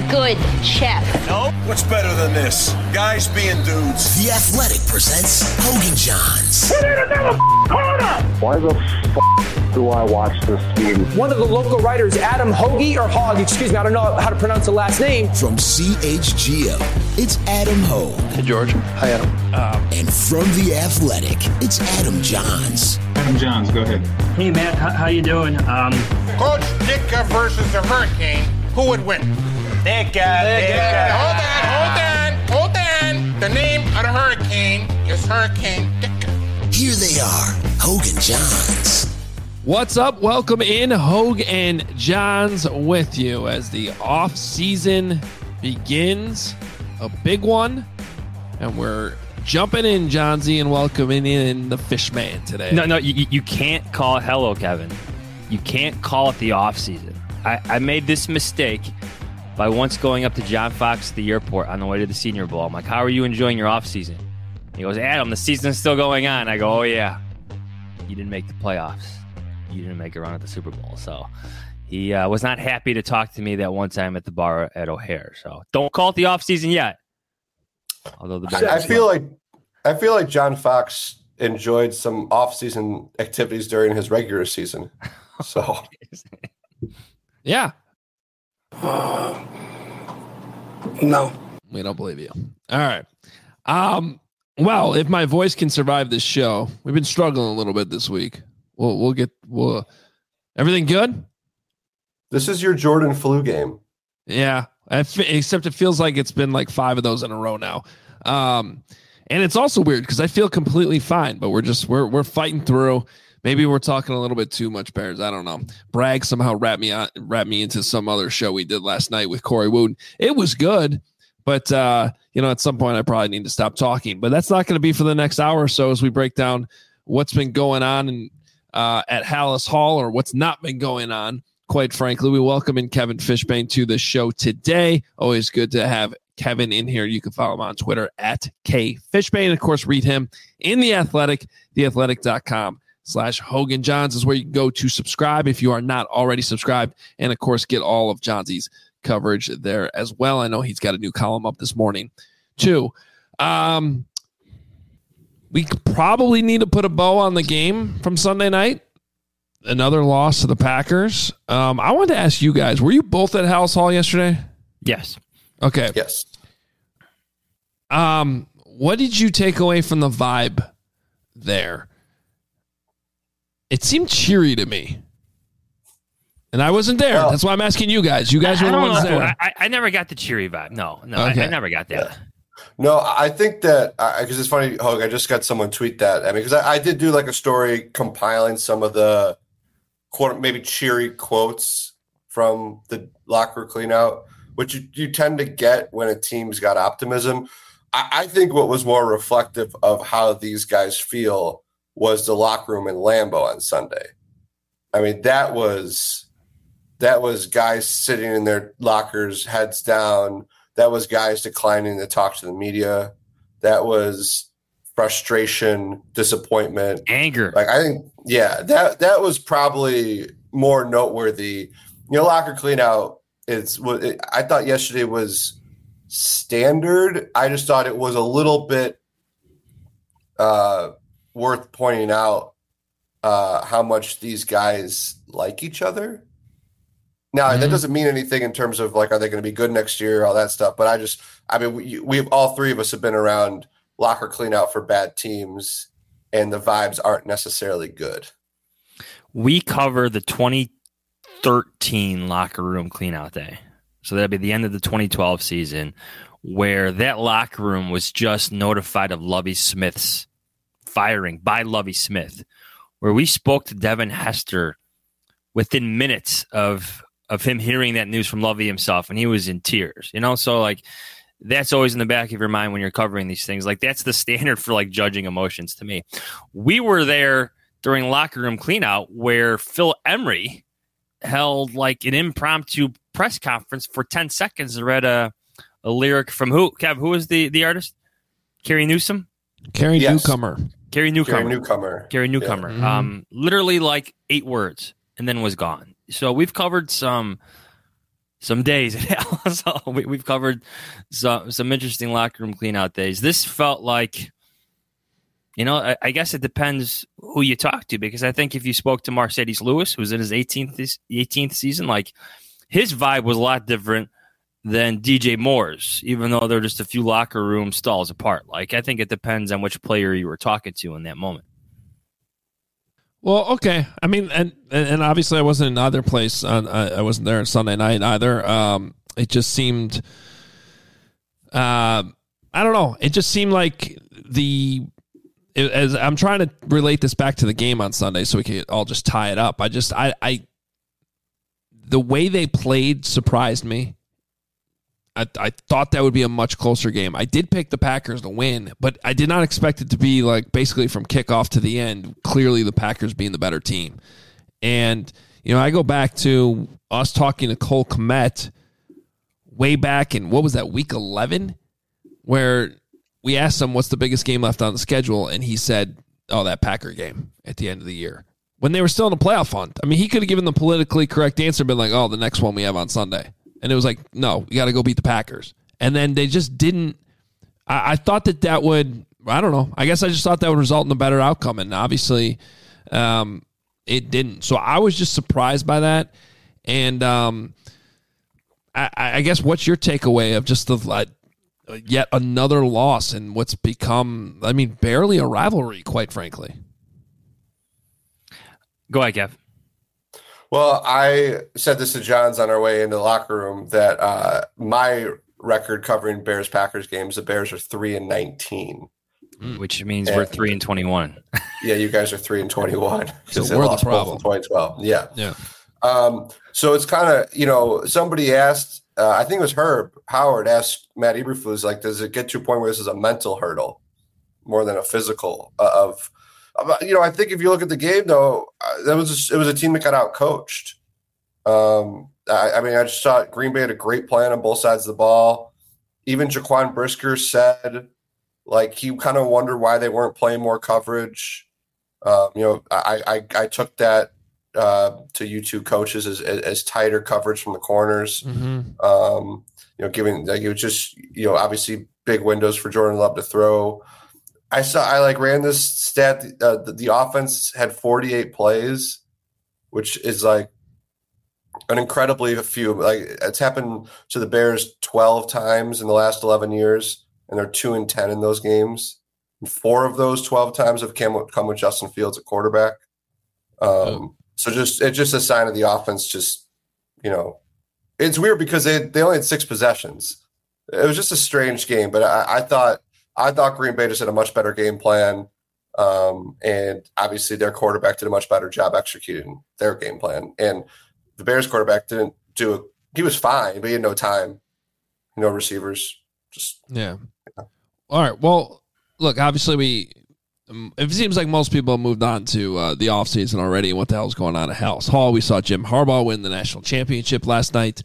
good chef. No? What's better than this? Guys being dudes. The Athletic presents Hogan Johns. We need another corner! Why the do I watch this game? One of the local writers, Adam Hoagie, or Hogg, excuse me, I don't know how to pronounce the last name. From CHGO, it's Adam Hogue. Hey, George. Hi, Adam. And from The Athletic, it's Adam Johns. Adam Johns, go ahead. Hey, Matt, how you doing? Coach Ditka versus the Hurricane, who would win? Ditka. Hold on. The name of the Hurricane is Hurricane Ditka. Here they are, Hogan Johns. What's up? Welcome in, Hogue and Johns with you as the off season begins. A big one, and we're jumping in, Johnsy, and welcoming in the Fishman today. No, you can't call it hello, Kevin. You can't call it the off season. I made this mistake by once going up to John Fox at the airport on the way to the Senior Bowl. I'm like, how are you enjoying your off season? He goes, Adam, the season's still going on. I go, oh yeah, you didn't make the playoffs. You didn't make a run at the Super Bowl. So he was not happy to talk to me that one time at the bar at O'Hare. So don't call it the offseason yet. Although I feel like John Fox enjoyed some off-season activities during his regular season. So yeah. No. We don't believe you. All right. Well, if my voice can survive this show, we've been struggling a little bit this week. We'll everything good? This is your Jordan flu game. Yeah. Except it feels like it's been like 5 of those in a row now. And it's also weird because I feel completely fine, but we're fighting through. Maybe we're talking a little bit too much, Bears. I don't know. Bragg somehow wrapped me into some other show we did last night with Corey Wooten. It was good, but at some point I probably need to stop talking. But that's not going to be for the next hour or so as we break down what's been going on at Halas Hall, or what's not been going on. Quite frankly, we welcome in Kevin Fishbane to the show today. Always good to have Kevin in here. You can follow him on Twitter at KFishbane. Of course, read him in The Athletic. TheAthletic.com/Hogan Johns is where you can go to subscribe if you are not already subscribed. And of course, get all of Johnsy's coverage there as well. I know he's got a new column up this morning too. We probably need to put a bow on the game from Sunday night. Another loss to the Packers. I wanted to ask you guys, were you both at Halas Hall yesterday? Yes. Okay. Yes. What did you take away from the vibe there? It seemed cheery to me. And I wasn't there. That's why I'm asking you guys. You guys were the ones there. I never got the cheery vibe. No, okay. I never got that. Yeah. No, I think that because it's funny, Hogue, I just got someone tweet that. I mean, because I did do like a story compiling some of the quote, maybe cheery quotes from the locker cleanout, which you tend to get when a team's got optimism. I think what was more reflective of how these guys feel was the locker room in Lambeau on Sunday. I mean, that was guys sitting in their lockers, heads down. That was guys declining to talk to the media. That was frustration, disappointment, anger. Like, I think, yeah, that was probably more noteworthy. Locker cleanout. I thought yesterday was standard. I just thought it was a little bit worth pointing out how much these guys like each other. Now, that doesn't mean anything in terms of, like, are they going to be good next year, all that stuff. But we've all three of us have been around locker cleanout for bad teams, and the vibes aren't necessarily good. We cover the 2013 locker room cleanout day. So that'd be the end of the 2012 season, where that locker room was just notified of Lovie Smith's firing by Lovie Smith, where we spoke to Devin Hester within minutes of him hearing that news from Lovie himself, and he was in tears, So, like, that's always in the back of your mind when you're covering these things. Like, that's the standard for, like, judging emotions to me. We were there during locker room cleanout where Phil Emery held, like, an impromptu press conference for 10 seconds and read a lyric from who? Kev, who was the artist? Carrie Newsom? Carrie Newcomer. Carrie Newcomer. Yeah. Literally like 8 words and then was gone. So we've covered some some days at Dallas. So we've covered some interesting locker room cleanout days. This felt like, I guess it depends who you talk to, because I think if you spoke to Mercedes Lewis, who's in his 18th season, like his vibe was a lot different than DJ Moore's, even though they're just a few locker room stalls apart. Like, I think it depends on which player you were talking to in that moment. Well, okay. I mean, and obviously I wasn't in either place. I wasn't there on Sunday night either. It just seemed, I don't know. It just seemed like as I'm trying to relate this back to the game on Sunday so we can all just tie it up. The way they played surprised me. I thought that would be a much closer game. I did pick the Packers to win, but I did not expect it to be like basically from kickoff to the end, clearly the Packers being the better team. And, I go back to us talking to Cole Kmet way back in, what was that, week 11? Where we asked him what's the biggest game left on the schedule, and he said, that Packer game at the end of the year. When they were still in a playoff hunt. I mean, he could have given the politically correct answer, been like, the next one we have on Sunday. And it was like, no, we got to go beat the Packers. And then they just didn't. I thought that would, I don't know. I guess I just thought that would result in a better outcome. And obviously it didn't. So I was just surprised by that. And I guess what's your takeaway of just the yet another loss in what's become, barely a rivalry, quite frankly? Go ahead, Kev. Well, I said this to Johns on our way into the locker room that my record covering Bears-Packers games, the Bears are 3-19. Which means we're 3-21. Yeah, you guys are 3-21. So we're the problem. 2012. Yeah. So it's kind of, somebody asked, I think it was Herb Howard asked Matt Eberflus, like, does it get to a point where this is a mental hurdle more than a physical I think if you look at the game, though, it was a team that got out-coached. I just thought Green Bay had a great plan on both sides of the ball. Even Jaquan Brisker said, like, he kind of wondered why they weren't playing more coverage. I took that to you two coaches as tighter coverage from the corners. Mm-hmm. Giving like it was just obviously big windows for Jordan Love to throw. I ran this stat. The offense had 48 plays, which is like an incredibly few. Like it's happened to the Bears 12 times in the last 11 years, and they're 2-10 in those games. And 4 of those 12 times have come with Justin Fields at quarterback. So it's just a sign of the offense. It's weird because they only had 6 possessions. It was just a strange game, but I thought Green Bay just had a much better game plan, and obviously their quarterback did a much better job executing their game plan. And the Bears quarterback didn't do it. He was fine, but he had no time, no receivers. Yeah. All right. Well, look, obviously it seems like most people have moved on to the offseason already and what the hell is going on at Hallis Hall. We saw Jim Harbaugh win the national championship last night.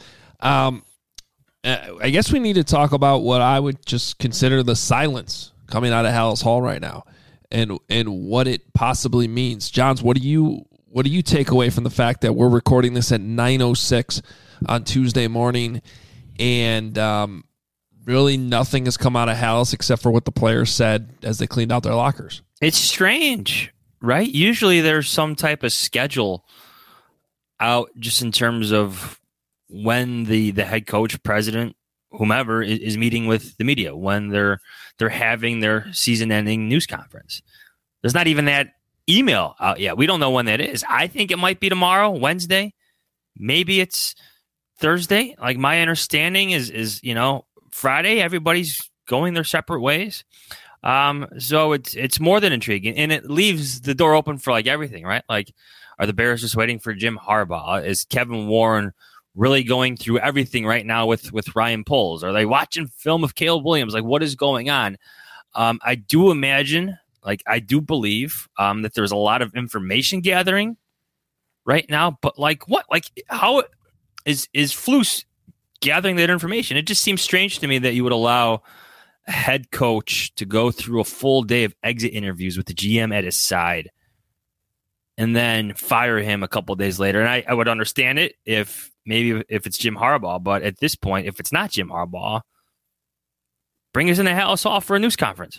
I guess we need to talk about what I would just consider the silence coming out of Hallis Hall right now, and what it possibly means. Johns, what do you take away from the fact that we're recording this at 9:06 on Tuesday morning, and really nothing has come out of Hallis except for what the players said as they cleaned out their lockers? It's strange, right? Usually there's some type of schedule out just in terms of when the head coach, president, whomever is meeting with the media, when they're having their season-ending news conference. There's not even that email out yet. We don't know when that is. I think it might be tomorrow, Wednesday. Maybe it's Thursday. Like my understanding is Friday, everybody's going their separate ways. So it's more than intriguing, and it leaves the door open for like everything, right? Like, are the Bears just waiting for Jim Harbaugh? Is Kevin Warren really going through everything right now with Ryan Poles? Are they watching film of Caleb Williams? Like, what is going on? I do imagine, I do believe that there's a lot of information gathering right now, but like what? Like, how is Flus gathering that information? It just seems strange to me that you would allow a head coach to go through a full day of exit interviews with the GM at his side and then fire him a couple of days later. And I would understand it if maybe if it's Jim Harbaugh, but at this point, if it's not Jim Harbaugh, bring us in the Halas Hall for a news conference.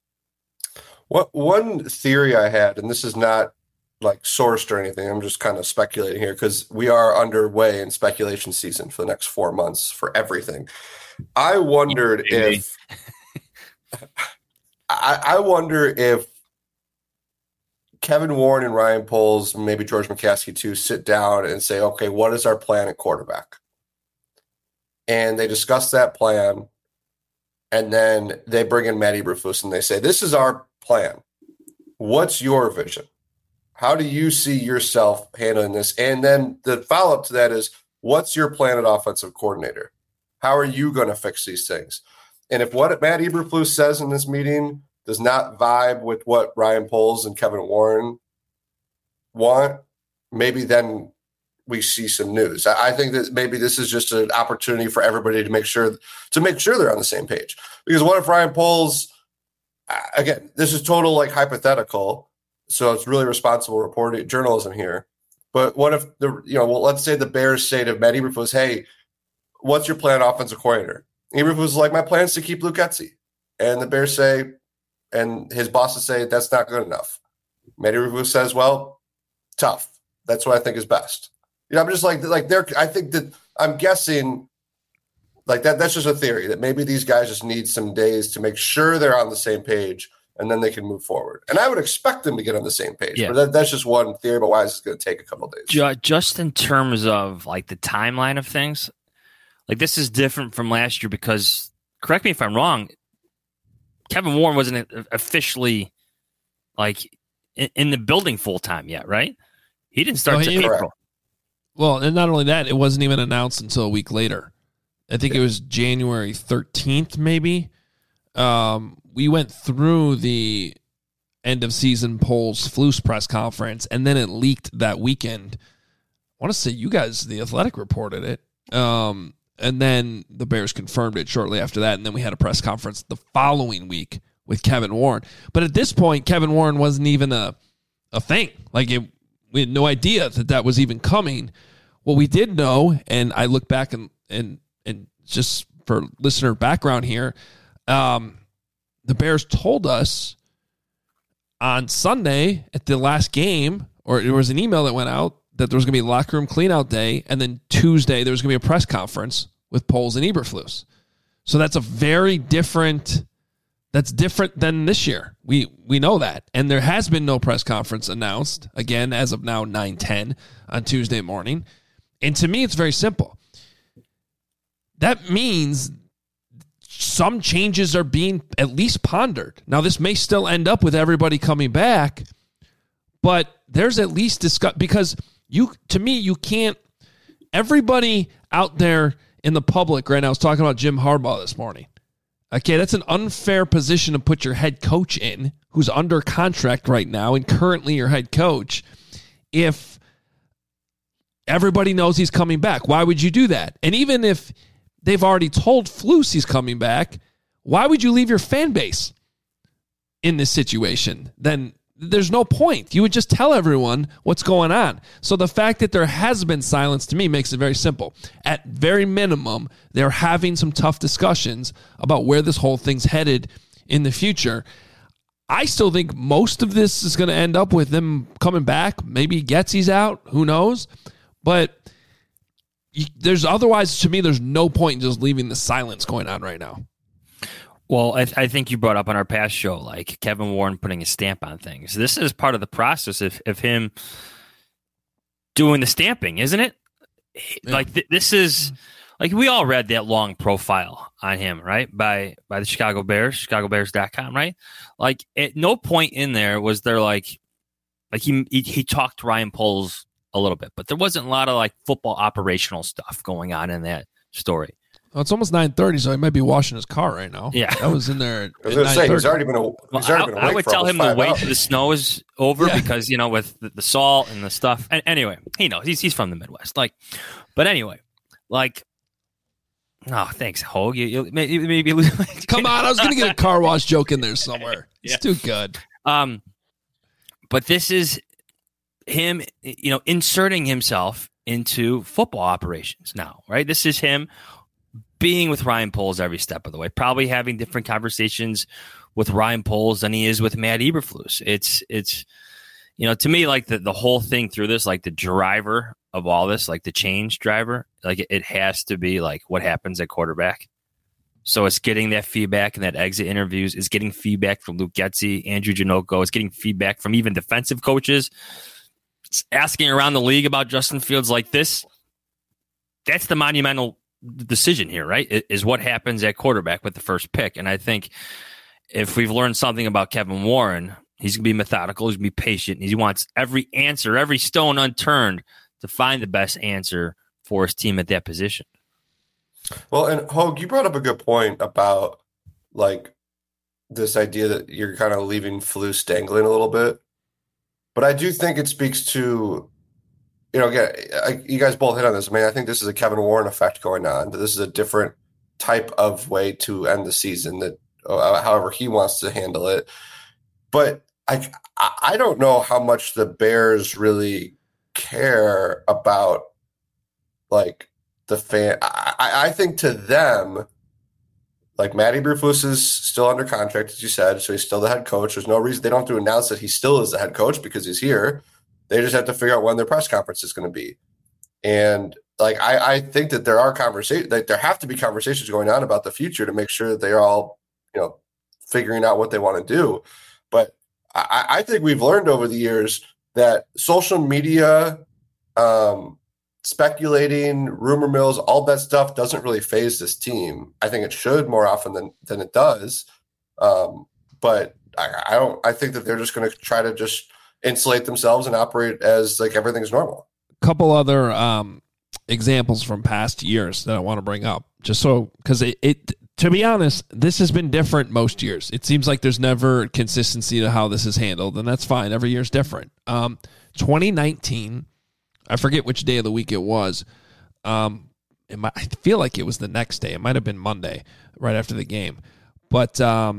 One theory I had, and this is not like sourced or anything, I'm just kind of speculating here because we are underway in speculation season for the next 4 months for everything. I wondered if I wonder if Kevin Warren and Ryan Poles, maybe George McCaskey too, sit down and say, okay, what is our plan at quarterback? And they discuss that plan, and then they bring in Matt Eberflus and they say, this is our plan. What's your vision? How do you see yourself handling this? And then the follow-up to that is, what's your plan at offensive coordinator? How are you going to fix these things? And if what Matt Eberflus says in this meeting does not vibe with what Ryan Poles and Kevin Warren want, maybe then we see some news. I think that maybe this is just an opportunity for everybody to make sure they're on the same page. Because what if Ryan Poles, again, this is total like hypothetical, so it's really responsible reporting journalism here. But what if let's say the Bears say to Matt Eberflus, hey, what's your plan offensive coordinator? Eberflus is like, my plan is to keep Luke Getsy. And the Bears say, and his bosses say, that's not good enough. Matt Eberflus says, well, tough. That's what I think is best. I'm just like I think that I'm guessing like that. That's just a theory that maybe these guys just need some days to make sure they're on the same page, and then they can move forward. And I would expect them to get on the same page. Yeah. But that's just one theory about why it's going to take a couple of days. Just in terms of like the timeline of things, like this is different from last year because, correct me if I'm wrong, Kevin Warren wasn't officially like in the building full time yet, right? He didn't start until April. Well, and not only that, it wasn't even announced until a week later. I think it was January 13th, maybe. We went through the end of season Poles Flus press conference, and then it leaked that weekend. I want to say you guys, The Athletic, reported it. And then the Bears confirmed it shortly after that, and then we had a press conference the following week with Kevin Warren. But at this point, Kevin Warren wasn't even a thing. Like, we had no idea that was even coming. What we did know, and I look back and just for listener background here, the Bears told us on Sunday at the last game, or there was an email that went out that there was going to be a locker room cleanout day, and then Tuesday there was going to be a press conference with Poles and Eberflus. So that's that's different than this year. We know that. And there has been no press conference announced, again, as of now, 9:10 on Tuesday morning. And to me, it's very simple. That means some changes are being at least pondered. Now, this may still end up with everybody coming back, but there's at least discuss, because to me, you can't, everybody out there in the public right now is talking about Jim Harbaugh this morning. Okay, that's an unfair position to put your head coach in, who's under contract right now and currently your head coach, if everybody knows he's coming back. Why would you do that? And even if they've already told Flus he's coming back, why would you leave your fan base in this situation? Then there's no point. You would just tell everyone what's going on. So the fact that there has been silence to me makes it very simple. At very minimum, they're having some tough discussions about where this whole thing's headed in the future. I still think most of this is going to end up with them coming back. Maybe Getsy's out. Who knows? But otherwise, to me, there's no point in just leaving the silence going on right now. Well, I think you brought up on our past show, like Kevin Warren putting a stamp on things. This is part of the process of him doing the stamping, isn't it? Yeah. Like this is like we all read that long profile on him, right? By the Chicago Bears, ChicagoBears.com, right? Like at no point in there was there like he talked to Ryan Poles a little bit, but there wasn't a lot of like football operational stuff going on in that story. Well, it's almost 9:30, so he might be washing his car right now. Yeah, that was in there. I was going to say he's already been awake. I would tell him to wait till the snow is over because with the salt and the stuff. And anyway, he knows he's from the Midwest. Like, but anyway, like, oh, thanks, Hogue. You maybe come on. I was going to get a car wash joke in there somewhere. It's too good. But this is him, inserting himself into football operations now, right? This is him being with Ryan Poles every step of the way, probably having different conversations with Ryan Poles than he is with Matt Eberflus. It's to me, like the whole thing through this, like the driver of all this, like the change driver, like it has to be like what happens at quarterback. So it's getting that feedback and that exit interviews. It's getting feedback from Luke Getsy, Andrew Janocko. It's getting feedback from even defensive coaches. It's asking around the league about Justin Fields like this. That's the monumental decision here, right? Is what happens at quarterback with the first pick. And I think if we've learned something about Kevin Warren, he's going to be methodical. He's going to be patient. He wants every answer, every stone unturned to find the best answer for his team at that position. Well, and Hogue, you brought up a good point about like this idea that you're kind of leaving Flus dangling a little bit. But I do think it speaks to, again, you guys both hit on this. I mean, I think this is a Kevin Warren effect going on. That this is a different type of way to end the season, that however he wants to handle it. But I don't know how much the Bears really care about like the fan. I think to them, like Matt Eberflus is still under contract, as you said, so he's still the head coach. There's no reason they don't have to announce that he still is the head coach because he's here. They just have to figure out when their press conference is going to be. And like I think that there are conversations, like there have to be conversations going on about the future to make sure that they're all, figuring out what they want to do. But I think we've learned over the years that social media, speculating, rumor mills, all that stuff doesn't really phase this team. I think it should more often than it does. But I think that they're just going to try to just insulate themselves and operate as like everything's normal. A couple other examples from past years that I want to bring up, just so, because it to be honest, this has been different most years. It seems like there's never consistency to how this is handled, and that's fine. Every year's different. 2019, I forget which day of the week it was. I feel like it was the next day. It might have been Monday, right after the game. But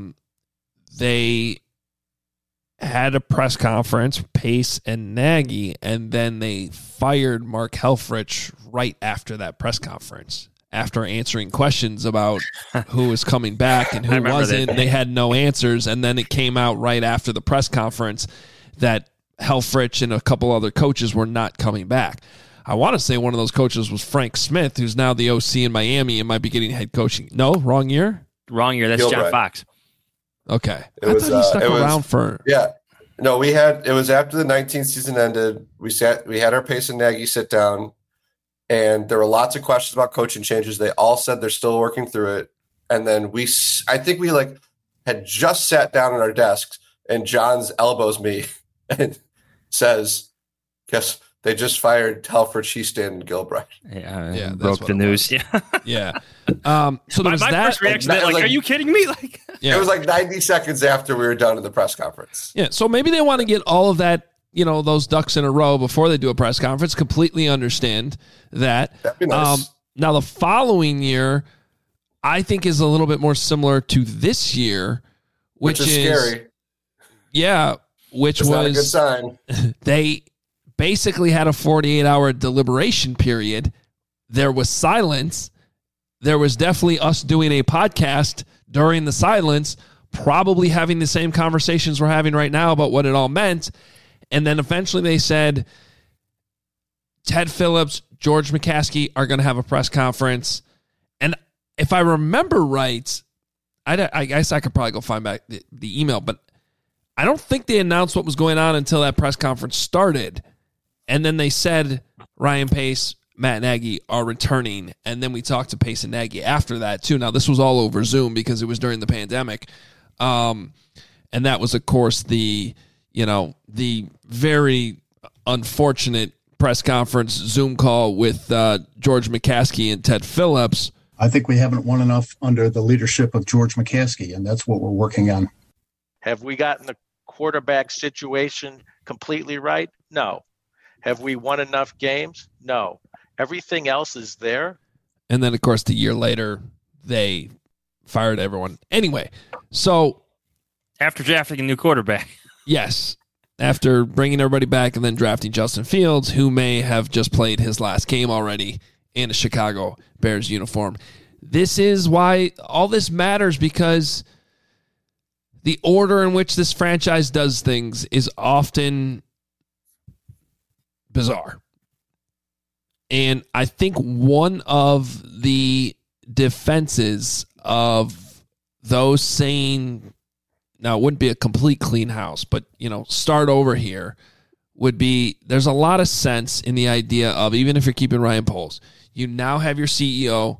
they had a press conference, Pace and Nagy, and then they fired Mark Helfrich right after that press conference. After answering questions about who was coming back and who wasn't, they had no answers. And then it came out right after the press conference that Helfrich and a couple other coaches were not coming back. I want to say one of those coaches was Frank Smith, who's now the OC in Miami and might be getting head coaching. No, wrong year? Wrong year. That's Gilbride. John Fox. Okay. I thought he stuck around for... Yeah. No, it was after the 19th season ended. We had our Pace and Nagy sit down, and there were lots of questions about coaching changes. They all said they're still working through it. And then I think we had just sat down at our desks, and John's elbows me and says, "Guess they just fired Helfrich, Houston, and Gilbride." Yeah, broke the news. Yeah, yeah. So there was my that. First reaction, are you kidding me? It was like 90 seconds after we were done in the press conference. Yeah, so maybe they want to get all of that, those ducks in a row before they do a press conference. Completely understand that. That'd be nice. Now the following year, I think is a little bit more similar to this year, which is scary. Yeah, which it's was not a good sign. They basically had a 48-hour deliberation period. There was silence. There was definitely us doing a podcast during the silence, probably having the same conversations we're having right now about what it all meant. And then eventually they said, Ted Phillips, George McCaskey are going to have a press conference. And if I remember right, I guess I could probably go find back the email, but I don't think they announced what was going on until that press conference started. And then they said Ryan Pace, Matt Nagy are returning. And then we talked to Pace and Nagy after that too. Now this was all over Zoom because it was during the pandemic. And that was, of course, the very unfortunate press conference Zoom call with George McCaskey and Ted Phillips. I think we haven't won enough under the leadership of George McCaskey, and that's what we're working on. Have we gotten the quarterback situation completely right? No. Have we won enough games? No. Everything else is there. And then, of course, the year later, they fired everyone. Anyway, so... After drafting a new quarterback. Yes. after bringing everybody back and then drafting Justin Fields, who may have just played his last game already in a Chicago Bears uniform. This is why all this matters, because the order in which this franchise does things is often bizarre. And I think one of the defenses of those saying, now it wouldn't be a complete clean house, but, start over here, would be, there's a lot of sense in the idea of, even if you're keeping Ryan Poles, you now have your CEO,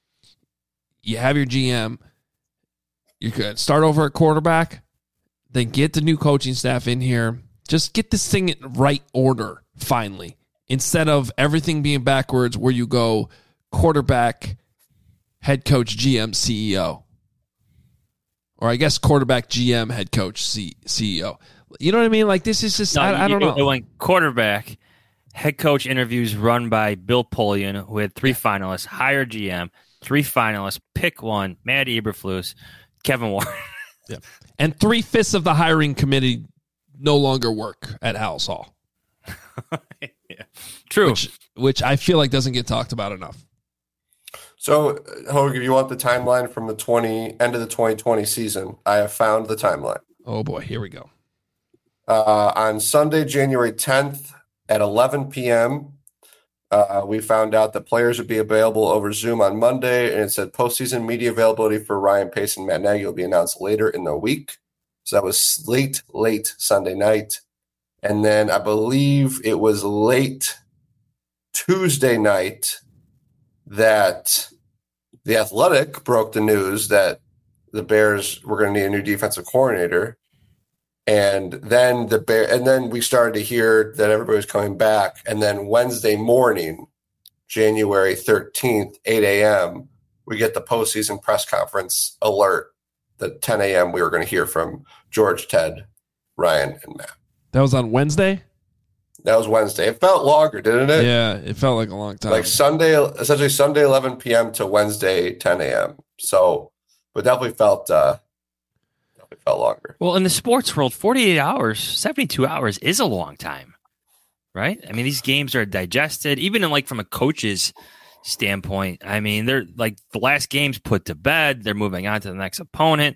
you have your GM, you could start over at quarterback, then get the new coaching staff in here. Just get this thing in right order, finally, instead of everything being backwards where you go quarterback, head coach, GM, CEO. Or I guess quarterback, GM, head coach, CEO. You know what I mean? Like, this is just, I don't know. It went quarterback, head coach interviews run by Bill Polian, who had 3 finalists, hire GM, 3 finalists, pick one, Matt Eberflus, Kevin Warren. Yeah. And 3/5 of the hiring committee no longer work at Halas Hall. Yeah. True. Which I feel like doesn't get talked about enough. So, Hogue, if you want the timeline from the end of the 2020 season, I have found the timeline. Oh boy, here we go. On Sunday, January 10th at 11 p.m., we found out that players would be available over Zoom on Monday, and it said postseason media availability for Ryan Pace and Matt Nagy will be announced later in the week. So that was late Sunday night. And then I believe it was late Tuesday night that The Athletic broke the news that the Bears were going to need a new defensive coordinator. And then we started to hear that everybody was coming back. And then Wednesday morning, January 13th, 8 a.m., we get the postseason press conference alert that 10 a.m. we were going to hear from George, Ted, Ryan, and Matt. That was on Wednesday? That was Wednesday. It felt longer, didn't it? Yeah, it felt like a long time. Like essentially Sunday 11 p.m. to Wednesday 10 a.m. So, but definitely felt longer. Well, in the sports world, 48 hours, 72 hours is a long time, right? I mean, these games are digested, even from a coach's standpoint. I mean, they're like the last game's put to bed. They're moving on to the next opponent.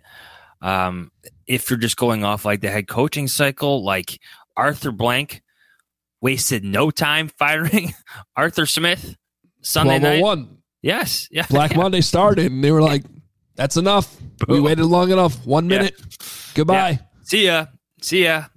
If you're just going off like the head coaching cycle, like Arthur Blank wasted no time firing Arthur Smith Sunday night. Yes. Yeah. Black Monday started, and they were like, that's enough. Boom. We waited long enough. 1 minute. Yeah. Goodbye. Yeah. See ya.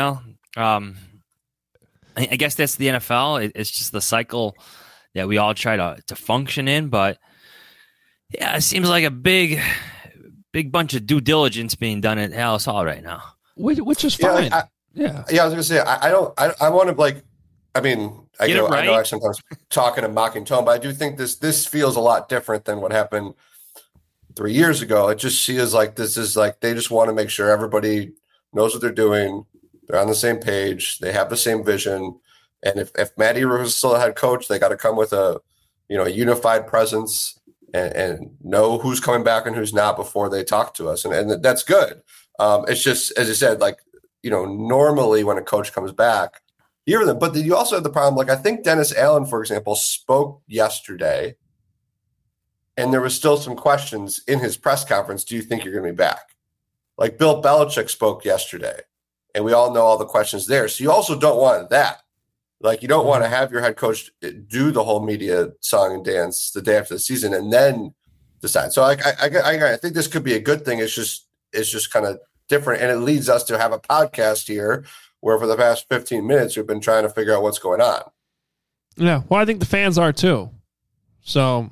I guess that's the NFL. It's just the cycle that we all try to function in. But yeah, it seems like a big bunch of due diligence being done at Halas Hall right now, which is fine. I was gonna say I want to I know I sometimes talk in a mocking tone, but I do think this feels a lot different than what happened 3 years ago. It just feels like this is like they just want to make sure everybody knows what they're doing. They're on the same page. They have the same vision. And if Matt Eberflus is still a head coach, they got to come with a unified presence and know who's coming back and who's not before they talk to us. And that's good. It's just, as you said, normally when a coach comes back, but you also have the problem. I think Dennis Allen, for example, spoke yesterday, and there was still some questions in his press conference. Do you think you're going to be back? Bill Belichick spoke yesterday, and we all know all the questions there. So you also don't want that. You don't want to have your head coach do the whole media song and dance the day after the season and then decide. So I think this could be a good thing. It's just kind of different, and it leads us to have a podcast here where for the past 15 minutes we've been trying to figure out what's going on. Yeah, well, I think the fans are too. So,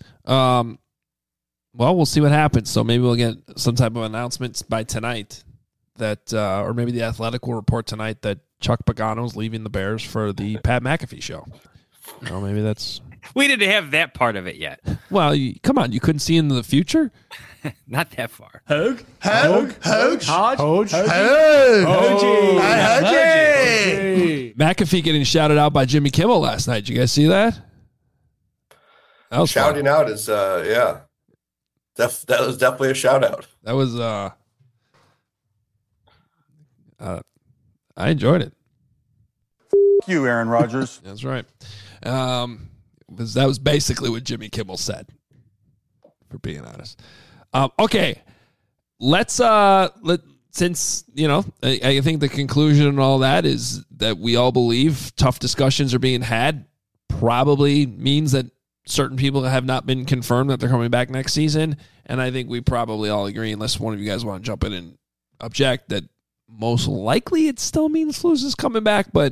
we'll see what happens. So maybe we'll get some type of announcements by tonight that, or maybe the Athletic will report tonight that Chuck Pagano's leaving the Bears for the Pat McAfee show. Maybe that's. We didn't have that part of it yet. Well, come on, you couldn't see into the future. Not that far. Hogue. McAfee getting shouted out by Jimmy Kimmel last night. Did you guys see that? That was shouting fun. Out is that was definitely a shout out. That was I enjoyed it. You, Aaron Rodgers. That's right. Because that was basically what Jimmy Kimmel said, for being honest. Okay, since, I think the conclusion and all that is that we all believe tough discussions are being had, probably means that certain people have not been confirmed that they're coming back next season. And I think we probably all agree, unless one of you guys want to jump in and object, that most likely it still means Flus is coming back, but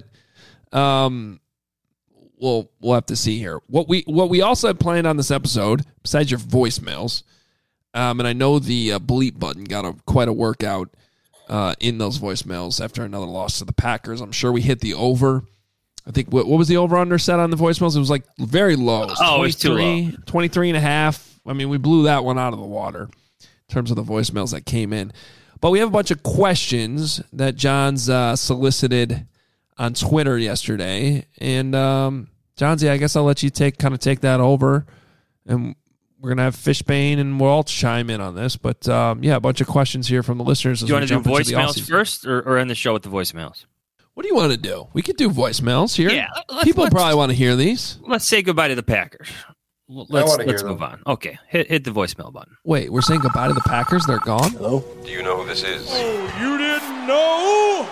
we'll have to see here. What we also had planned on this episode, besides your voicemails, and I know the bleep button got quite a workout in those voicemails after another loss to the Packers. I'm sure we hit the over. I think, what was the over-under set on the voicemails? It was like very low. It was too low. 23 and a half. I mean, we blew that one out of the water in terms of the voicemails that came in. But we have a bunch of questions that John's solicited on Twitter yesterday. And, Johnsy, I guess I'll let you take that over. And we're going to have Fishbane and we'll all chime in on this. But, a bunch of questions here from the listeners. Do you want to do voicemails first or end the show with the voicemails? What do you want to do? We could do voicemails here. Yeah, people probably want to hear these. Let's say goodbye to the Packers. Let's move on. Okay, hit the voicemail button. Wait, we're saying goodbye to the Packers? They're gone? Hello? Do you know who this is? Oh, you didn't know?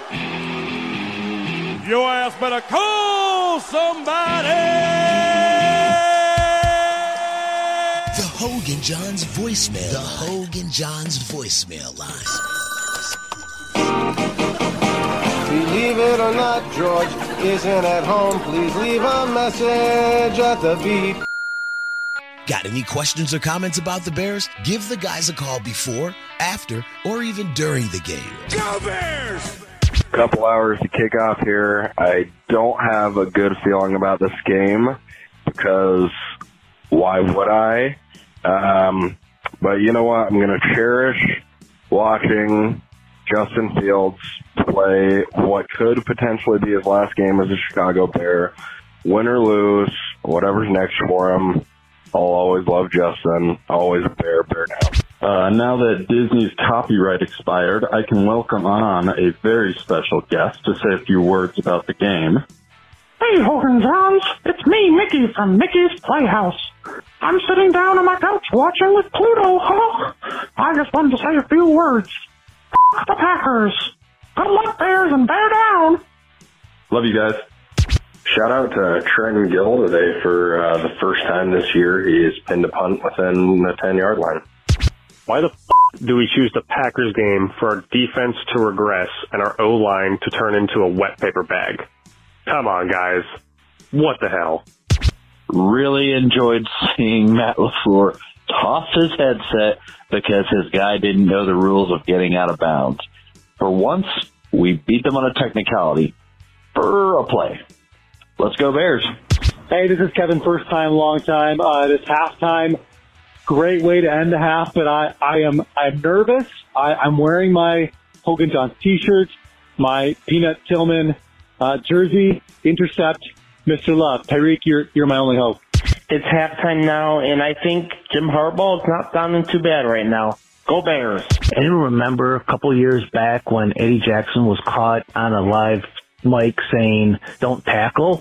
Your ass better call somebody! The Hogan Johns voicemail. The Hogan Johns voicemail line. Believe it or not, George isn't at home. Please leave a message at the beep. Got any questions or comments about the Bears? Give the guys a call before, after, or even during the game. Go Bears! Couple hours to kick off here. I don't have a good feeling about this game because why would I? But you know what? I'm going to cherish watching Justin Fields play what could potentially be his last game as a Chicago Bear. Win or lose, whatever's next for him. I'll always love Justin. Always a Bear now. Now that Disney's copyright expired, I can welcome on a very special guest to say a few words about the game. Hey, Hogan Johns. It's me, Mickey, from Mickey's Playhouse. I'm sitting down on my couch watching with Pluto, huh? I just wanted to say a few words. F*** the Packers. Good luck, Bears, and bear down. Love you guys. Shout out to Trenton Gill today for the first time this year. He has pinned a punt within the 10-yard line. Why the do we choose the Packers game for our defense to regress and our O-line to turn into a wet paper bag? Come on, guys. What the hell? Really enjoyed seeing Matt LaFleur toss his headset because his guy didn't know the rules of getting out of bounds. For once, we beat them on a technicality. For a play. Let's go Bears. Hey, this is Kevin, first time, long time. This halftime, great way to end the half, but I'm nervous. I'm wearing my Hogan Johns t-shirt, my Peanut Tillman jersey, intercept, Mr. Love. Tyreek, you're my only hope. It's halftime now, and I think Jim Harbaugh is not sounding too bad right now. Go Bears. Anyone remember a couple years back when Eddie Jackson was caught on a live mic saying, don't tackle?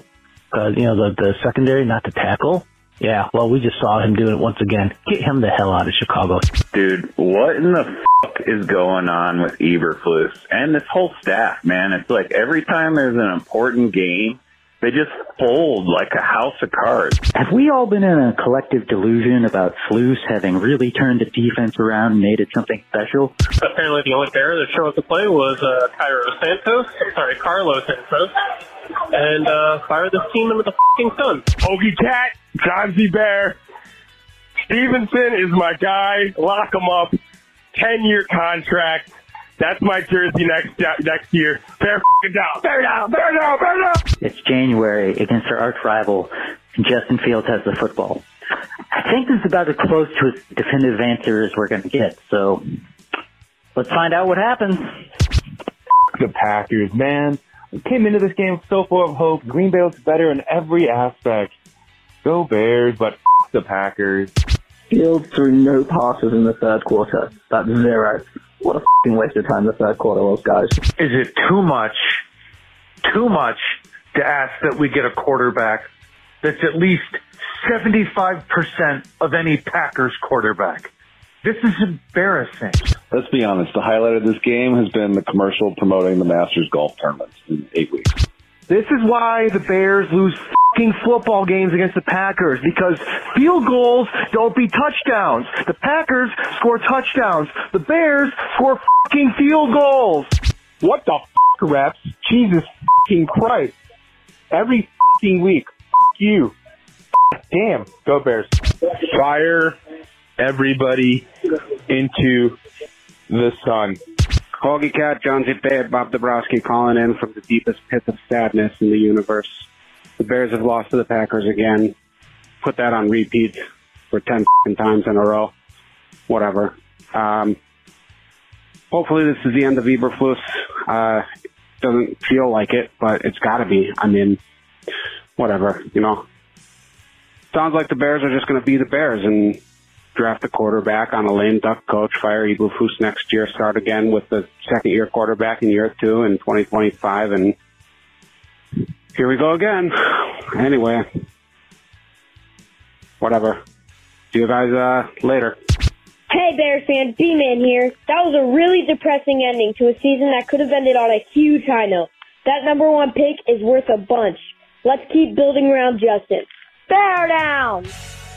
The secondary not to tackle? Yeah, well, we just saw him doing it once again. Get him the hell out of Chicago. Dude, what in the fuck is going on with Eberflus and this whole staff, man? It's like every time there's an important game, they just fold like a house of cards. Have we all been in a collective delusion about Flus having really turned the defense around and made it something special? Apparently the only Bear that showed up to play was Carlos Santos. And fire this team into the fucking sun. Hoagie Cat, Johnsy Bear. Stevenson is my guy. Lock him up. 10-year contract. That's my jersey next year. Bear down. Bear down. Bear down. Bear down. It's January against our arch rival, and Justin Fields has the football. I think this is about as close to a definitive answer as we're going to get. So let's find out what happens. The Packers, man. We came into this game so full of hope. Green Bay looks better in every aspect. Go Bears, but the Packers. Fields threw no passes in the third quarter. That's zero. What a f***ing waste of time the third quarter was, guys. Is it too much too much to ask that we get a quarterback that's at least 75% of any Packers quarterback. This is embarrassing. Let's be honest. The highlight of this game has been the commercial promoting the Masters golf tournaments in 8 weeks. This is why the Bears lose fucking football games against the Packers, because field goals don't beat touchdowns. The Packers score touchdowns. The Bears score fucking field goals. What the reps? Jesus fucking Christ. Every fucking week. You. Damn. Go Bears. Fire everybody into the sun. Hoagie Cat, Jonesy Bear, Bob Dabrowski calling in from the deepest pit of sadness in the universe. The Bears have lost to the Packers again. Put that on repeat for 10 times in a row. Whatever. Hopefully this is the end of Eberflus. Doesn't feel like it, but it's got to be. I mean, whatever, you know. Sounds like the Bears are just going to be the Bears and draft a quarterback on a lame duck coach, fire Eberflus next year, start again with the second-year quarterback in year 2 in 2025, and here we go again. Anyway, whatever. See you guys later. Hey, Bears fan, B-Man here. That was a really depressing ending to a season that could have ended on a huge high note. That number 1 pick is worth a bunch. Let's keep building around Justin. Bear down!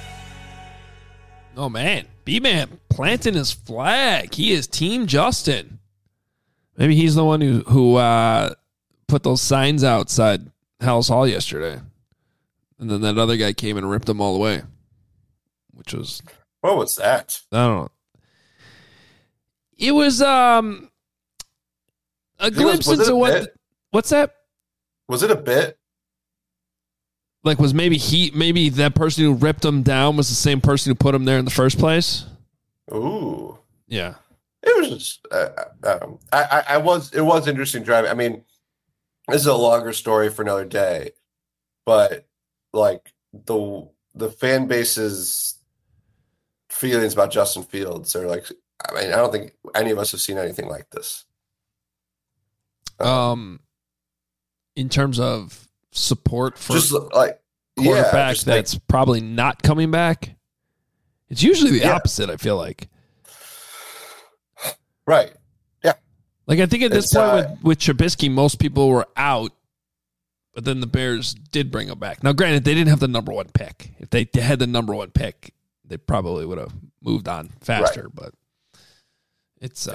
Oh, man. B-Man planting his flag. He is Team Justin. Maybe he's the one who put those signs outside Hallis Hall yesterday. And then that other guy came and ripped them all away. Which was... What was that? I don't know. It was a glimpse into what... What's that? Was it a bit? Like, was maybe that person who ripped him down was the same person who put him there in the first place? Ooh. Yeah. It was just, it was interesting driving. I mean, this is a longer story for another day, but like the fan base's feelings about Justin Fields are like, I mean, I don't think any of us have seen anything like this. In terms of support for just like quarterback that's probably not coming back, it's usually the opposite. I feel like, right? Yeah. Like I think at this point with Trubisky, most people were out, but then the Bears did bring him back. Now, granted, they didn't have the number 1 pick. If they had the number 1 pick, they probably would have moved on faster. Right. But it's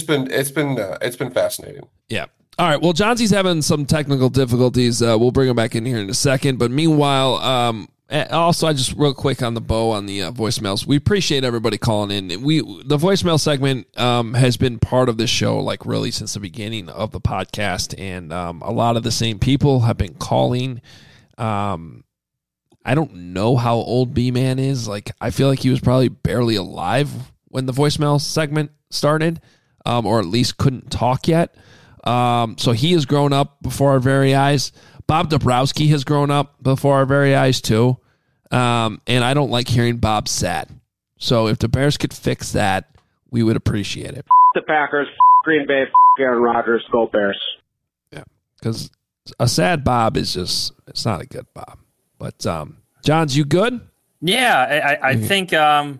been fascinating. Yeah. All right. Well, Johnson's having some technical difficulties. We'll bring him back in here in a second. But meanwhile, also, I just real quick on the bow on the voicemails. We appreciate everybody calling in. The voicemail segment has been part of this show, like really since the beginning of the podcast, and a lot of the same people have been calling. I don't know how old B-Man is. Like, I feel like he was probably barely alive when the voicemail segment started, or at least couldn't talk yet. So he has grown up before our very eyes. Bob Dabrowski has grown up before our very eyes too. And I don't like hearing Bob sad. So if the Bears could fix that, we would appreciate it. The Packers, Green Bay, Aaron Rodgers, go Bears. Yeah, because a sad Bob is just, it's not a good Bob. But Johns, you good? Yeah, I think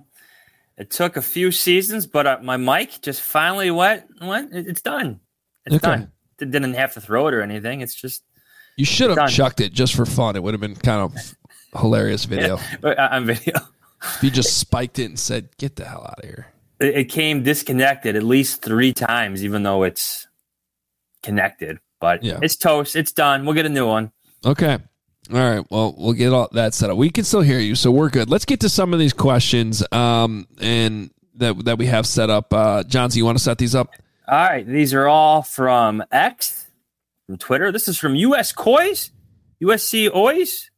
it took a few seasons, but my mic just finally went. It's done. It's done. It didn't have to throw it or anything. It's just... You should have chucked it just for fun. It would have been kind of hilarious video. Yeah, on video. If you just spiked it and said, get the hell out of here. It came disconnected at least 3 times, even though it's connected. But it's toast. It's done. We'll get a new one. Okay. All right. Well, we'll get all that set up. We can still hear you, so we're good. Let's get to some of these questions and that we have set up. Johnson, you want to set these up? All right, these are all from X, from Twitter. This is from USC Oys.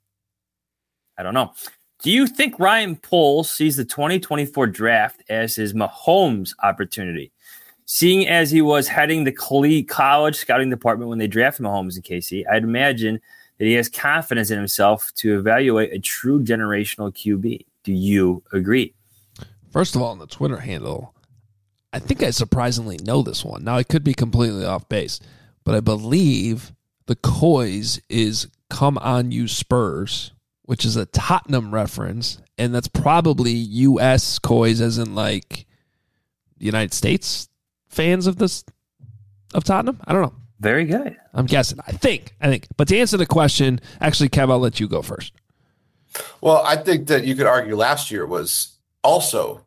I don't know. Do you think Ryan Poles sees the 2024 draft as his Mahomes opportunity? Seeing as he was heading the college scouting department when they drafted Mahomes in KC, I'd imagine that he has confidence in himself to evaluate a true generational QB. Do you agree? First of all, on the Twitter handle, I think I surprisingly know this one. Now, I could be completely off base, but I believe the Coys is "Come on, you Spurs," which is a Tottenham reference, and that's probably U.S. Coys, as in like the United States fans of Tottenham. I don't know. Very good. I'm guessing. I think. But to answer the question, actually, Kev, I'll let you go first. Well, I think that you could argue last year was also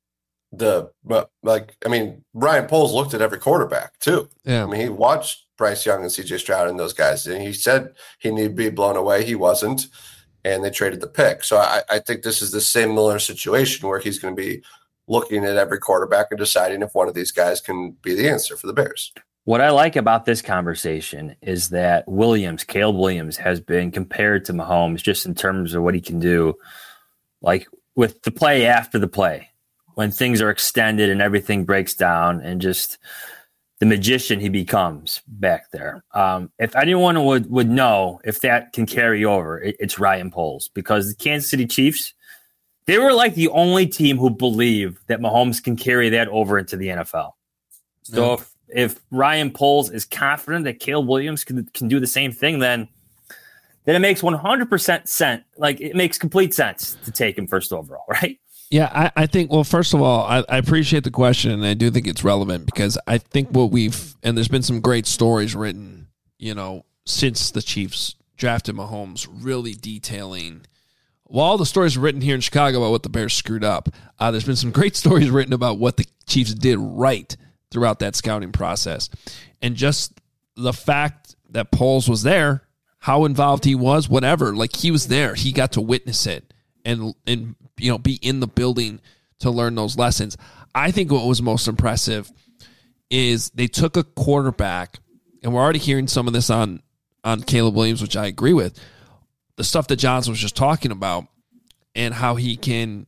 Ryan Poles looked at every quarterback too. Yeah. I mean, he watched Bryce Young and CJ Stroud and those guys, and he said he needed to be blown away. He wasn't, and they traded the pick. So I think this is the similar situation where he's going to be looking at every quarterback and deciding if one of these guys can be the answer for the Bears. What I like about this conversation is that Caleb Williams, has been compared to Mahomes just in terms of what he can do, like with the play after the play, when things are extended and everything breaks down, and just the magician he becomes back there. If anyone would know if that can carry over, it's Ryan Poles, because the Kansas City Chiefs, they were like the only team who believed that Mahomes can carry that over into the NFL. So if Ryan Poles is confident that Caleb Williams can do the same thing, then it makes 100% sense. Like, it makes complete sense to take him first overall, right? Yeah, I think, well, first of all, I appreciate the question, and I do think it's relevant, because I think and there's been some great stories written, since the Chiefs drafted Mahomes, really detailing, well, all the stories written here in Chicago about what the Bears screwed up. There's been some great stories written about what the Chiefs did right throughout that scouting process. And just the fact that Poles was there, how involved he was, whatever, like, he was there. He got to witness it and be in the building to learn those lessons. I think what was most impressive is they took a quarterback, and we're already hearing some of this on Caleb Williams, which I agree with, the stuff that Johnson was just talking about, and how he can,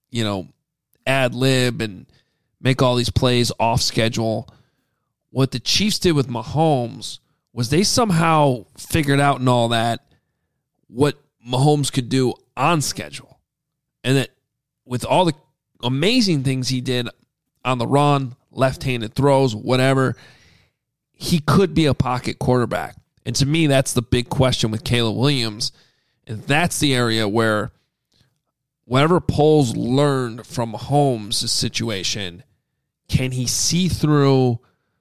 ad lib and make all these plays off schedule. What the Chiefs did with Mahomes was they somehow figured out in all that what Mahomes could do on schedule. And that with all the amazing things he did on the run, left-handed throws, whatever, he could be a pocket quarterback. And to me, that's the big question with Caleb Williams. And that's the area where whatever Poles learned from Mahomes' situation, can he see through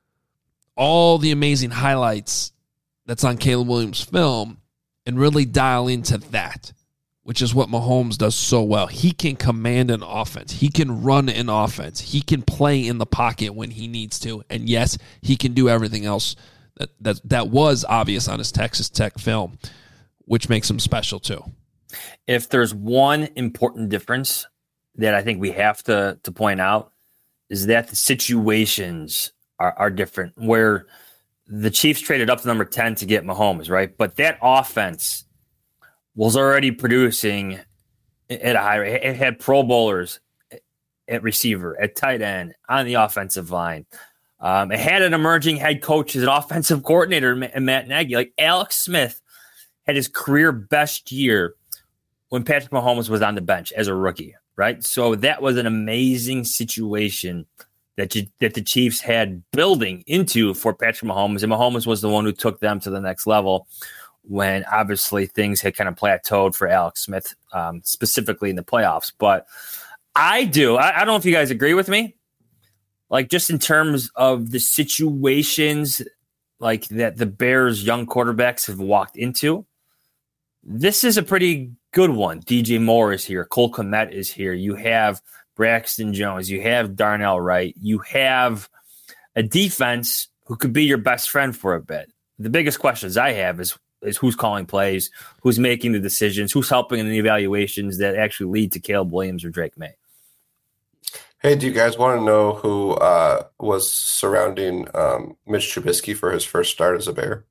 all the amazing highlights that's on Caleb Williams' film and really dial into that, which is what Mahomes does so well. He can command an offense. He can run an offense. He can play in the pocket when he needs to. And yes, he can do everything else that was obvious on his Texas Tech film, which makes him special too. If there's one important difference that I think we have to point out, is that the situations are different, where the Chiefs traded up to number 10 to get Mahomes, right? But that offense was already producing at a high rate. It had Pro Bowlers at receiver, at tight end, on the offensive line. It had an emerging head coach as an offensive coordinator, Matt Nagy. Like, Alex Smith had his career best year when Patrick Mahomes was on the bench as a rookie, right? So that was an amazing situation that the Chiefs had building into for Patrick Mahomes, and Mahomes was the one who took them to the next level when obviously things had kind of plateaued for Alex Smith, specifically in the playoffs. But I don't know if you guys agree with me, like, just in terms of the situations like that the Bears' young quarterbacks have walked into. This is a pretty good one. DJ Moore is here. Cole Kmet is here. You have Braxton Jones. You have Darnell Wright. You have a defense who could be your best friend for a bit. The biggest questions I have is who's calling plays, who's making the decisions, who's helping in the evaluations that actually lead to Caleb Williams or Drake May. Hey, do you guys want to know who was surrounding Mitch Trubisky for his first start as a Bear?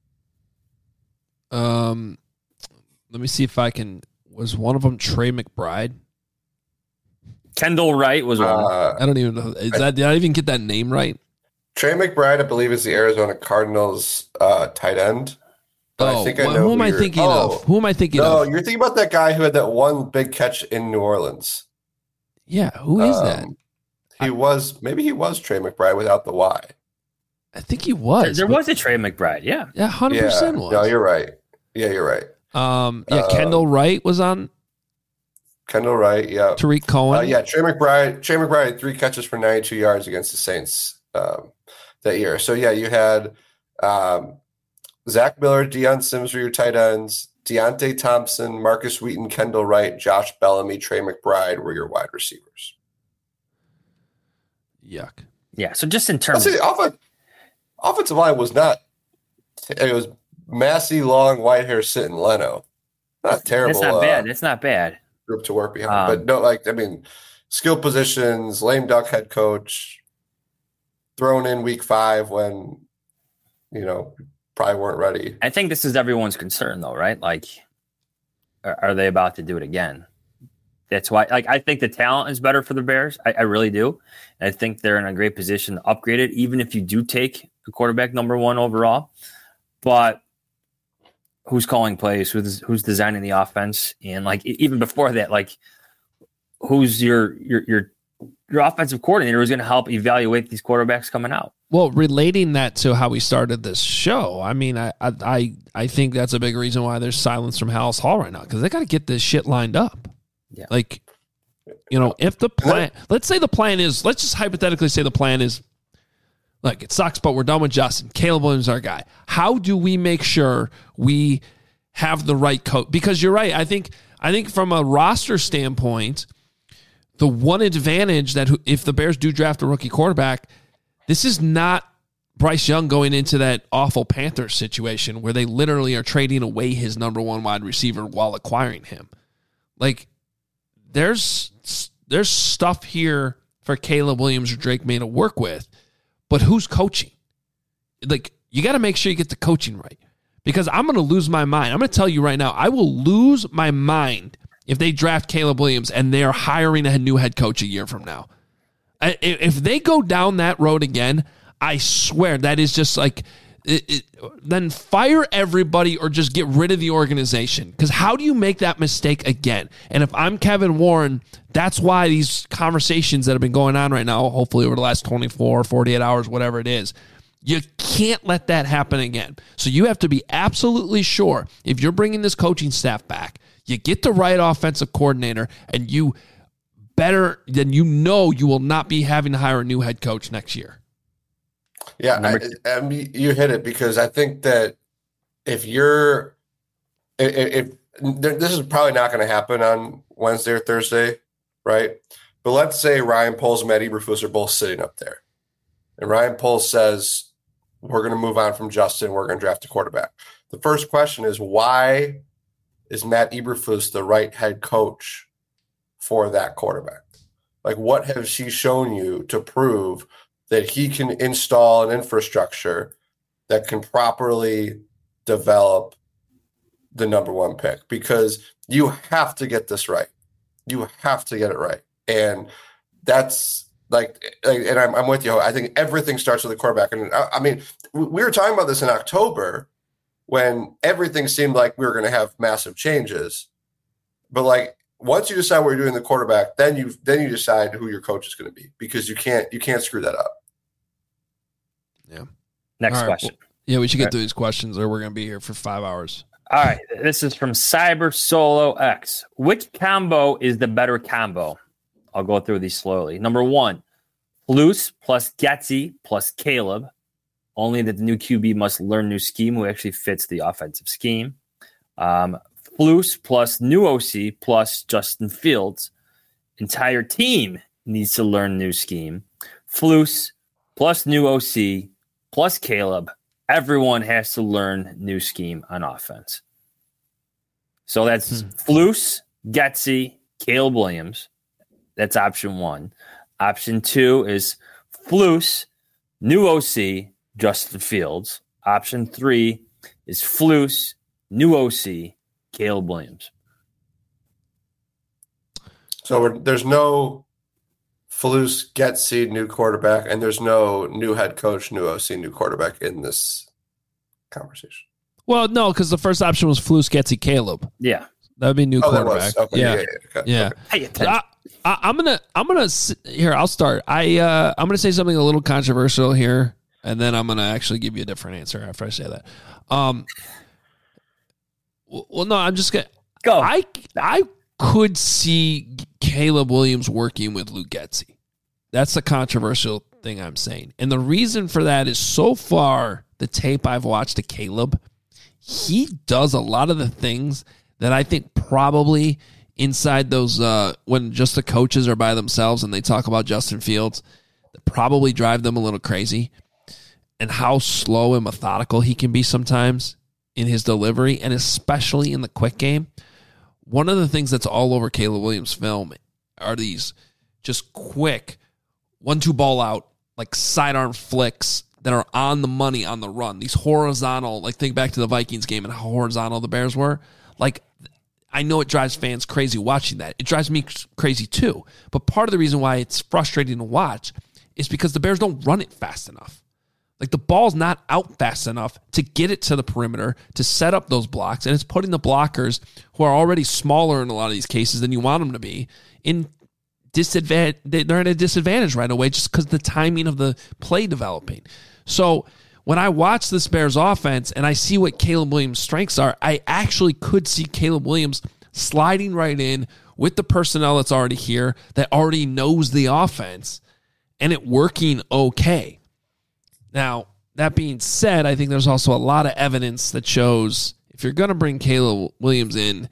Let me see if I can. Was one of them Trey McBride? Kendall Wright was one. I don't even know. Did I even get that name right? Trey McBride, I believe, is the Arizona Cardinals tight end. But I think I know who am I thinking of? Who am I thinking of? No, you're thinking about that guy who had that one big catch in New Orleans. Yeah, who is that? Maybe he was Trey McBride without the Y. I think he was. There was a Trey McBride. Yeah. Yeah, 100% was. No, you're right. Yeah, you're right. Kendall Wright was on. Kendall Wright, yeah. Tariq Cohen. Trey McBride had 3 catches for 92 yards against the Saints that year. So, yeah, you had Zach Miller, Deion Sims were your tight ends. Deontay Thompson, Marcus Wheaton, Kendall Wright, Josh Bellamy, Trey McBride were your wide receivers. Yuck. Yeah, so just in terms of offensive line was not – it was Massey, long, white hair, sitting Leno. Not terrible. It's not bad. It's not bad. Group to work behind. But no, skill positions, lame duck head coach, thrown in week 5 when, probably weren't ready. I think this is everyone's concern, though, right? Like, are they about to do it again? That's why, I think the talent is better for the Bears. I really do. And I think they're in a great position to upgrade it, even if you do take the quarterback number 1 overall. But who's calling plays? Who's designing the offense? And even before that, who's your offensive coordinator who's going to help evaluate these quarterbacks coming out? Well, relating that to how we started this show, I think that's a big reason why there's silence from Hallis Hall right now, because they got to get this shit lined up. Yeah. If the plan, let's just hypothetically say the plan is, look, it sucks, but we're done with Justin. Caleb Williams is our guy. How do we make sure we have the right coach? Because you're right. I think from a roster standpoint, the one advantage that if the Bears do draft a rookie quarterback, this is not Bryce Young going into that awful Panthers situation where they literally are trading away his number 1 wide receiver while acquiring him. There's stuff here for Caleb Williams or Drake May to work with, but who's coaching? You got to make sure you get the coaching right, because I'm going to lose my mind. I'm going to tell you right now, I will lose my mind if they draft Caleb Williams and they are hiring a new head coach a year from now. If they go down that road again, I swear that is just then fire everybody or just get rid of the organization. Because how do you make that mistake again? And if I'm Kevin Warren, that's why these conversations that have been going on right now, hopefully over the last 24, 48 hours, whatever it is, you can't let that happen again. So you have to be absolutely sure if you're bringing this coaching staff back, you get the right offensive coordinator, and you you will not be having to hire a new head coach next year. Yeah, you hit it, because I think that if this is probably not going to happen on Wednesday or Thursday, right? But let's say Ryan Poles and Matt Eberflus are both sitting up there, and Ryan Poles says, we're going to move on from Justin, we're going to draft a quarterback. The first question is, why is Matt Eberflus the right head coach for that quarterback? What has he shown you to prove that he can install an infrastructure that can properly develop the number 1 pick? Because you have to get this right. You have to get it right. And that's and I'm with you. I think everything starts with the quarterback. And we were talking about this in October when everything seemed like we were going to have massive changes. But once you decide what you're doing the quarterback, then you decide who your coach is going to be, because you can't screw that up. Yeah. Next question. We should get through these questions or we're going to be here for 5 hours. All right. This is from Cyber Solo X. Which combo is the better combo? I'll go through these slowly. Number 1, Flus plus Getsy plus Caleb. Only that the new QB must learn new scheme who actually fits the offensive scheme. Flus plus new OC plus Justin Fields. Entire team needs to learn new scheme. Flus plus new OC plus Caleb. Everyone has to learn new scheme on offense. So that's Flus, Getsy, Caleb Williams. That's option 1. Option 2 is Flus, new OC, Justin Fields. Option 3 is Flus, new OC, Caleb Williams. So there's no Flus, Getsy, new quarterback, and there's no new head coach, new OC, new quarterback in this conversation. Well, no, because the first option was Flus, Getsy, Caleb. Yeah, that would be new quarterback. Okay. Yeah. Okay. I'm gonna here. I'll start. I'm gonna say something a little controversial here. And then I'm going to actually give you a different answer after I say that. Well, no, I'm just going to go. I could see Caleb Williams working with Luke Getsy. That's the controversial thing I'm saying. And the reason for that is so far, the tape I've watched of Caleb, he does a lot of the things that I think probably inside those, when just the coaches are by themselves and they talk about Justin Fields, that probably drive them a little crazy. And how slow and methodical he can be sometimes in his delivery, and especially in the quick game. One of the things that's all over Caleb Williams' film are these just quick 1-2 ball out, like sidearm flicks that are on the money on the run. These horizontal, like think back to the Vikings game and how horizontal the Bears were. Like, I know it drives fans crazy watching that. It drives me crazy too. But part of the reason why it's frustrating to watch is because the Bears don't run it fast enough. Like, the ball's not out fast enough to get it to the perimeter, to set up those blocks, and it's putting the blockers, who are already smaller in a lot of these cases than you want them to be, in disadvantage. They're at a disadvantage right away just because the timing of the play developing. So when I watch this Bears offense and I see what Caleb Williams' strengths are, I actually could see Caleb Williams sliding right in with the personnel that's already here, that already knows the offense, and it working okay. Now, that being said, I think there's also a lot of evidence that shows if you're going to bring Caleb Williams in,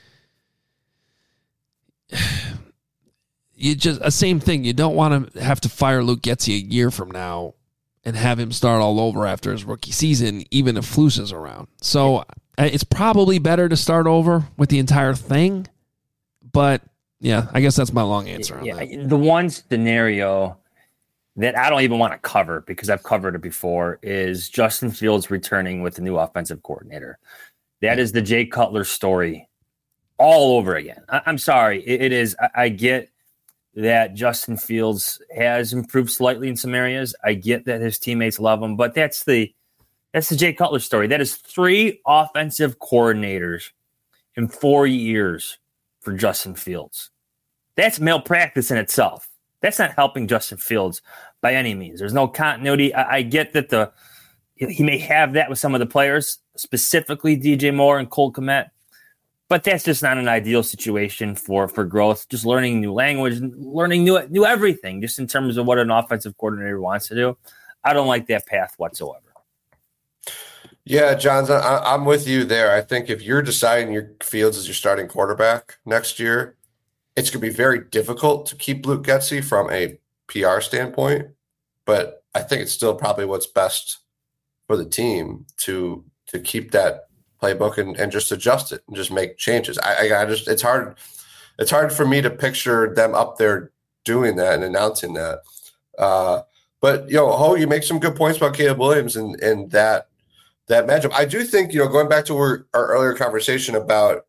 you just a same thing. You don't want to have to fire Luke Getsy a year from now and have him start all over after his rookie season, even if Flus is around. So it's probably better to start over with the entire thing. But, yeah, I guess that's my long answer on that. The one scenario that I don't even want to cover because I've covered it before is Justin Fields returning with the new offensive coordinator. That is the Jay Cutler story all over again. I'm sorry. It is. I get that Justin Fields has improved slightly in some areas. I get that his teammates love him, but that's the Jay Cutler story. That is 3 offensive coordinators in 4 years for Justin Fields. That's malpractice in itself. That's not helping Justin Fields by any means. There's no continuity. I get that he may have that with some of the players, specifically DJ Moore and Cole Kmet, but that's just not an ideal situation for growth. Just learning new language, learning new everything, just in terms of what an offensive coordinator wants to do. I don't like that path whatsoever. Yeah, Johns, I'm with you there. I think if you're deciding your Fields as your starting quarterback next year, it's going to be very difficult to keep Luke Getsy from a PR standpoint, but I think it's still probably what's best for the team to keep that playbook and just adjust it and just make changes. It's hard for me to picture them up there doing that and announcing that. But Ho, you make some good points about Caleb Williams and that matchup. I do think going back to our earlier conversation about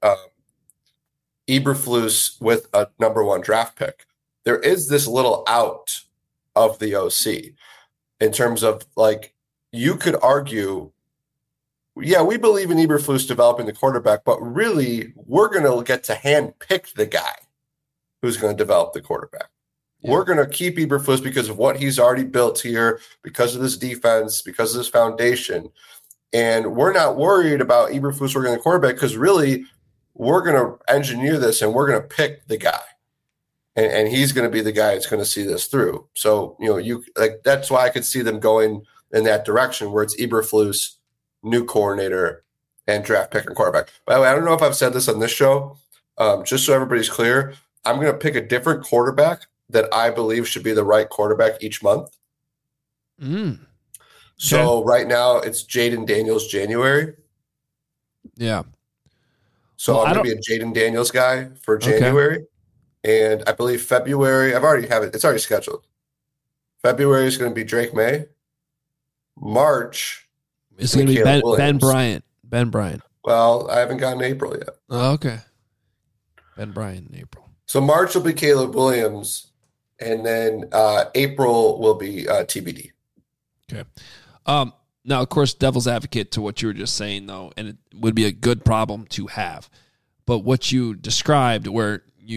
Eberflus with a number 1 draft pick, there is this little out of the OC in terms of, like, you could argue, yeah, we believe in Eberflus developing the quarterback, but really we're going to get to hand pick the guy who's going to develop the quarterback. Yeah. We're going to keep Eberflus because of what he's already built here, because of this defense, because of this foundation. And we're not worried about Eberflus working the quarterback because really we're going to engineer this and we're going to pick the guy. And he's going to be the guy that's going to see this through. So, that's why I could see them going in that direction where it's Eberflus, new coordinator, and draft pick and quarterback. By the way, I don't know if I've said this on this show. Just so everybody's clear, I'm going to pick a different quarterback that I believe should be the right quarterback each month. So right now it's Jaden Daniels January. Yeah. So I'm going to be a Jaden Daniels guy for January. Okay. And I believe February, it's already scheduled. February is going to be Drake May. March is going to be Ben Bryant. Ben Bryant. Well, I haven't gotten April yet. Oh, okay. Ben Bryant in April. So March will be Caleb Williams, and then April will be TBD. Okay. Now, of course, devil's advocate to what you were just saying, though, and it would be a good problem to have. But what you described, where you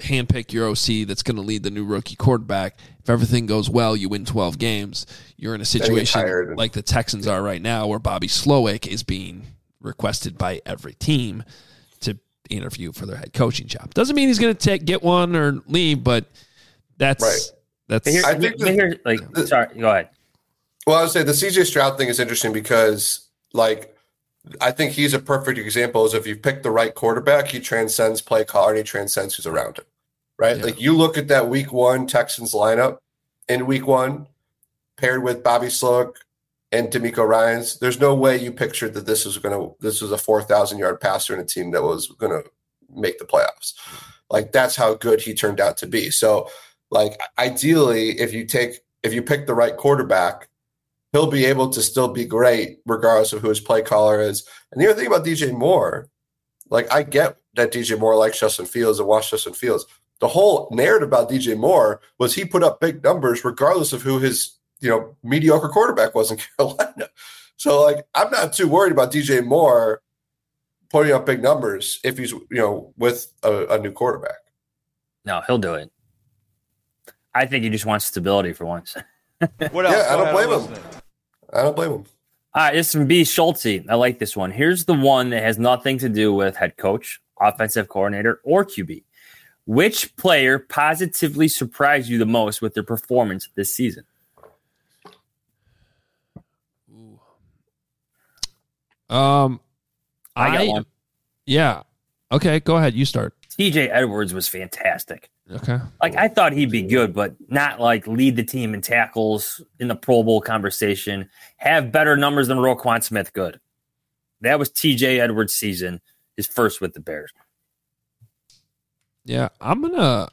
handpick your OC that's going to lead the new rookie quarterback. If everything goes well, you win 12 games. You're in a situation like the Texans are right now, where Bobby Slowick is being requested by every team to interview for their head coaching job. Doesn't mean he's going to get one or leave, but that's right. I think sorry, go ahead. Well, I would say the CJ Stroud thing is interesting because, like, I think he's a perfect example. Is if you pick the right quarterback, he transcends play caller and he transcends who's around him. Right? Yeah. Like, you look at that Week 1 Texans lineup in Week 1, paired with Bobby Slowick and DeMeco Ryans. There's no way you pictured that this was a 4,000-yard passer in a team that was going to make the playoffs. Like, that's how good he turned out to be. So, like, ideally, if you pick the right quarterback, he'll be able to still be great regardless of who his play caller is. And the other thing about DJ Moore, like, I get that DJ Moore likes Justin Fields and watched Justin Fields. The whole narrative about DJ Moore was he put up big numbers regardless of who his, mediocre quarterback was in Carolina. So, like, I'm not too worried about DJ Moore putting up big numbers if he's, with a new quarterback. No, he'll do it. I think he just wants stability for once. What else? Yeah, I don't blame him. All right, this is from B. Schulte. I like this one. Here's the one that has nothing to do with head coach, offensive coordinator, or QB. Which player positively surprised you the most with their performance this season? I got one. Yeah. Okay, go ahead. You start. TJ Edwards was fantastic. Okay. Like, I thought he'd be good, but not like lead the team in tackles in the Pro Bowl conversation, have better numbers than Roquan Smith. Good. That was TJ Edwards' season, his first with the Bears. Yeah, I'm gonna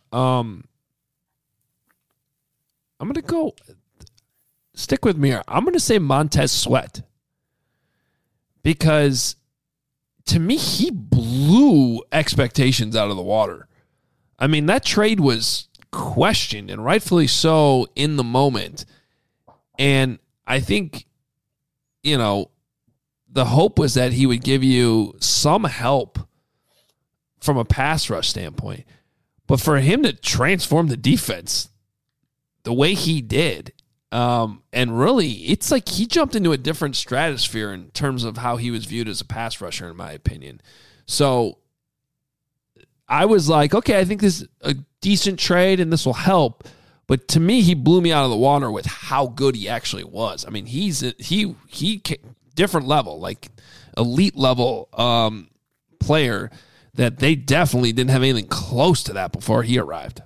go stick with me. I'm gonna say Montez Sweat, because to me he blew expectations out of the water. I mean, that trade was questioned, and rightfully so in the moment. And I think, the hope was that he would give you some help from a pass rush standpoint. But for him to transform the defense the way he did, and really, it's like he jumped into a different stratosphere in terms of how he was viewed as a pass rusher, in my opinion. So I was like, okay, I think this is a decent trade and this will help. But to me, he blew me out of the water with how good he actually was. I mean, he different level, like elite level player that they definitely didn't have anything close to that before he arrived.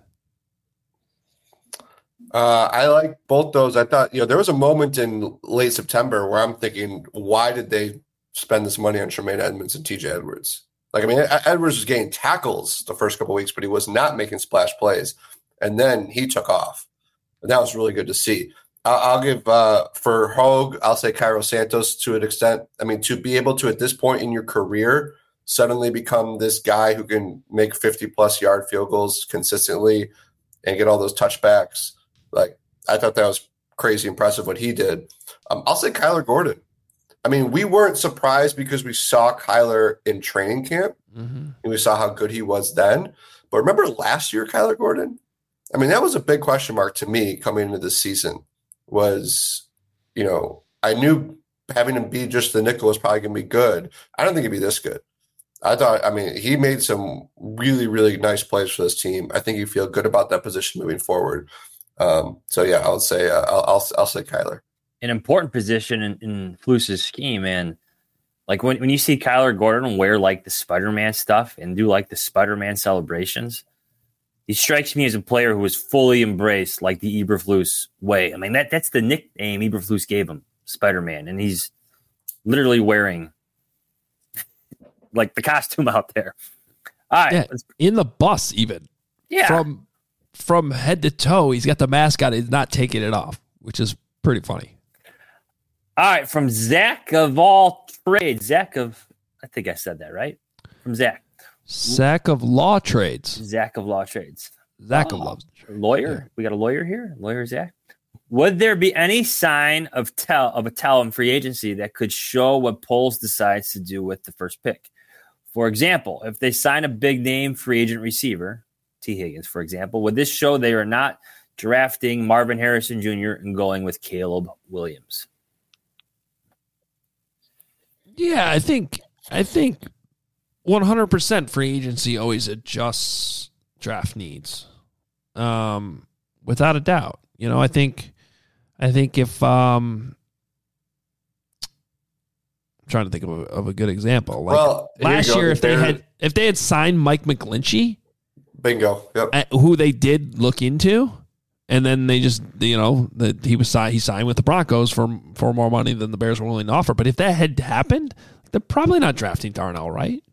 I like both those. I thought, there was a moment in late September where I'm thinking, why did they spend this money on Tremaine Edmonds and TJ Edwards? Like, I mean, Edwards was getting tackles the first couple of weeks, but he was not making splash plays. And then he took off. And that was really good to see. I'll give, for Hogue, I'll say Cairo Santos to an extent. I mean, to be able to, at this point in your career, suddenly become this guy who can make 50-plus yard field goals consistently and get all those touchbacks. Like, I thought that was crazy impressive what he did. I'll say Kyler Gordon. I mean, we weren't surprised because we saw Kyler in training camp, and we saw how good he was then. But remember last year, Kyler Gordon? I mean, that was a big question mark to me coming into this season was, I knew having him be just the nickel was probably going to be good. I don't think he'd be this good. He made some really, really nice plays for this team. I think you feel good about that position moving forward. So yeah, I would say I'll say Kyler. An important position in Flus's scheme, and like when you see Kyler Gordon wear like the Spider-Man stuff and do like the Spider-Man celebrations, he strikes me as a player who was fully embraced like the Eberflus way. I mean, that's the nickname Eberflus gave him, Spider-Man, and he's literally wearing like the costume out there. All right, in the bus even. Yeah, from head to toe, he's got the mask on. He's not taking it off, which is pretty funny. All right, from Zach of all trades. I think I said that right. From Zach. Zach of law trades. Zach of law trades. Zach of law. Lawyer. Yeah. We got a lawyer here. Lawyer Zach. Would there be any sign of a tell in free agency that could show what Poles decides to do with the first pick? For example, if they sign a big name free agent receiver, T. Higgins, for example. Would this show they are not drafting Marvin Harrison Jr. and going with Caleb Williams? Yeah, I think 100% free agency always adjusts draft needs, without a doubt. I think if I'm trying to think of a good example. Like last year, if they had signed Mike McGlinchey, bingo, yep, who they did look into, and then they just he signed with the Broncos for more money than the Bears were willing to offer. But if that had happened, they're probably not drafting Darnell, right?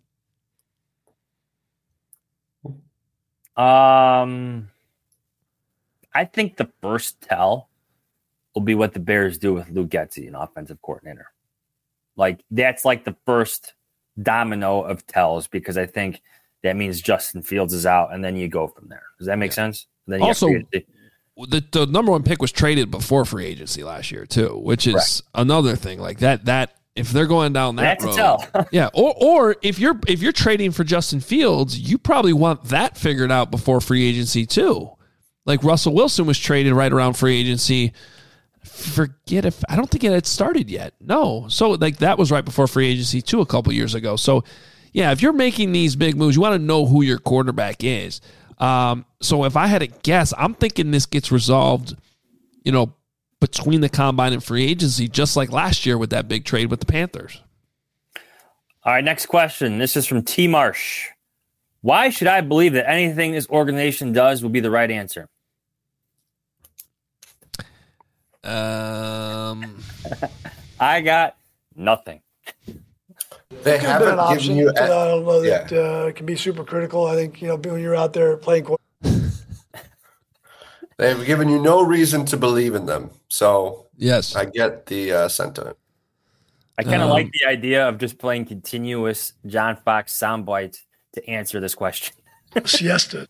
I think the first tell will be what the Bears do with Luke Getsy, an offensive coordinator. Like, that's like the first domino of tells, because I think that means Justin Fields is out, and then you go from there. Does that make sense? Then also, the number one pick was traded before free agency last year too, which is another thing. Like that if they're going down that road, tell. yeah. Or if you're trading for Justin Fields, you probably want that figured out before free agency too. Like Russell Wilson was traded right around free agency. I don't think it had started yet. No. So like that was right before free agency too, a couple years ago. So yeah, if you're making these big moves, you want to know who your quarterback is. So if I had to guess, I'm thinking this gets resolved, between the combine and free agency, just like last year with that big trade with the Panthers. All right, next question. This is from T. Marsh. Why should I believe that anything this organization does will be the right answer? I got nothing. They haven't an given option. you. I don't know that it can be super critical. I think when you're out there playing. They've given you no reason to believe in them. So yes, I get the sentiment. I kind of like the idea of just playing continuous John Fox sound bites to answer this question. Siesta.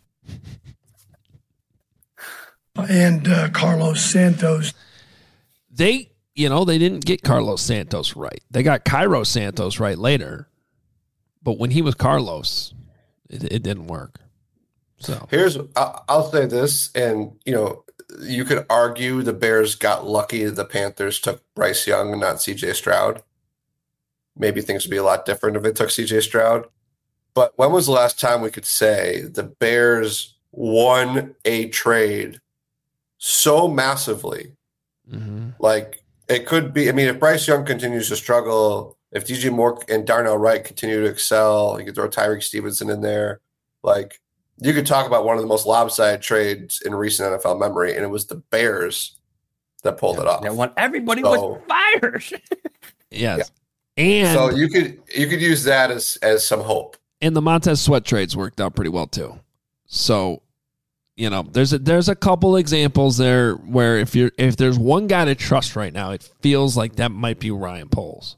And Carlos Santos. They didn't get Carlos Santos right. They got Cairo Santos right later. But when he was Carlos, it didn't work. So I'll say this, and you could argue the Bears got lucky that the Panthers took Bryce Young and not CJ Stroud. Maybe things would be a lot different if they took CJ Stroud. But when was the last time we could say the Bears won a trade so massively? Mm-hmm. Like, it could be, if Bryce Young continues to struggle, if DJ Moore and Darnell Wright continue to excel, you could throw Tyreek Stevenson in there. Like, you could talk about one of the most lopsided trades in recent NFL memory, and it was the Bears that pulled it off. When everybody was fired. Yes. And so you could use that as some hope. And the Montez Sweat trades worked out pretty well too. So, there's a couple examples there where if there's one guy to trust right now, it feels like that might be Ryan Poles.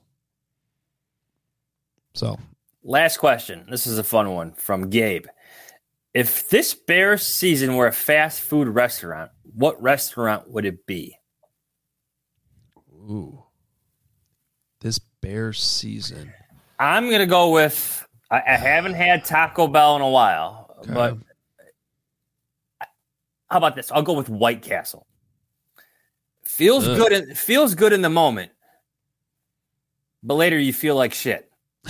So, last question. This is a fun one from Gabe. If this Bears season were a fast food restaurant, what restaurant would it be? Ooh. This Bears season. I'm going to go with, I haven't had Taco Bell in a while, but how about this? I'll go with White Castle. Feels good in the moment, but later you feel like shit.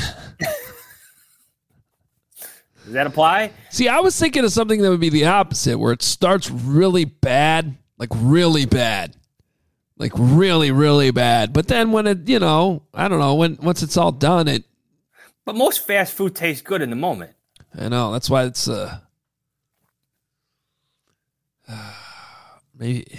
Does that apply? See, I was thinking of something that would be the opposite, where it starts really bad, like really bad. Like really, really bad. But then when it, I don't know, once it's all done, it. But most fast food tastes good in the moment. I know. That's why it's maybe.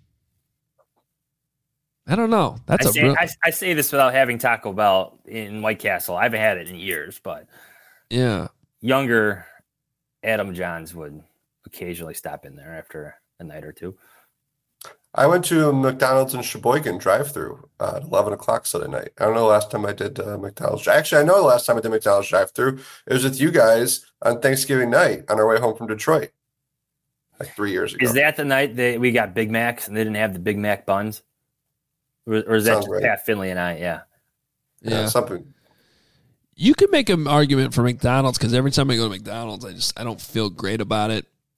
I don't know. I say this without having Taco Bell in White Castle. I haven't had it in years, but yeah, younger Adam Johns would occasionally stop in there after a night or two. I went to McDonald's in Sheboygan drive-thru at 11 o'clock Sunday night. I don't know the last time I did McDonald's. Actually, I know the last time I did McDonald's drive-thru. It was with you guys on Thanksgiving night on our way home from Detroit, like 3 years ago. Is that the night that we got Big Macs and they didn't have the Big Mac buns? Or is that just Pat Finley and I? Yeah. Something. You could make an argument for McDonald's because every time I go to McDonald's, I don't feel great about it.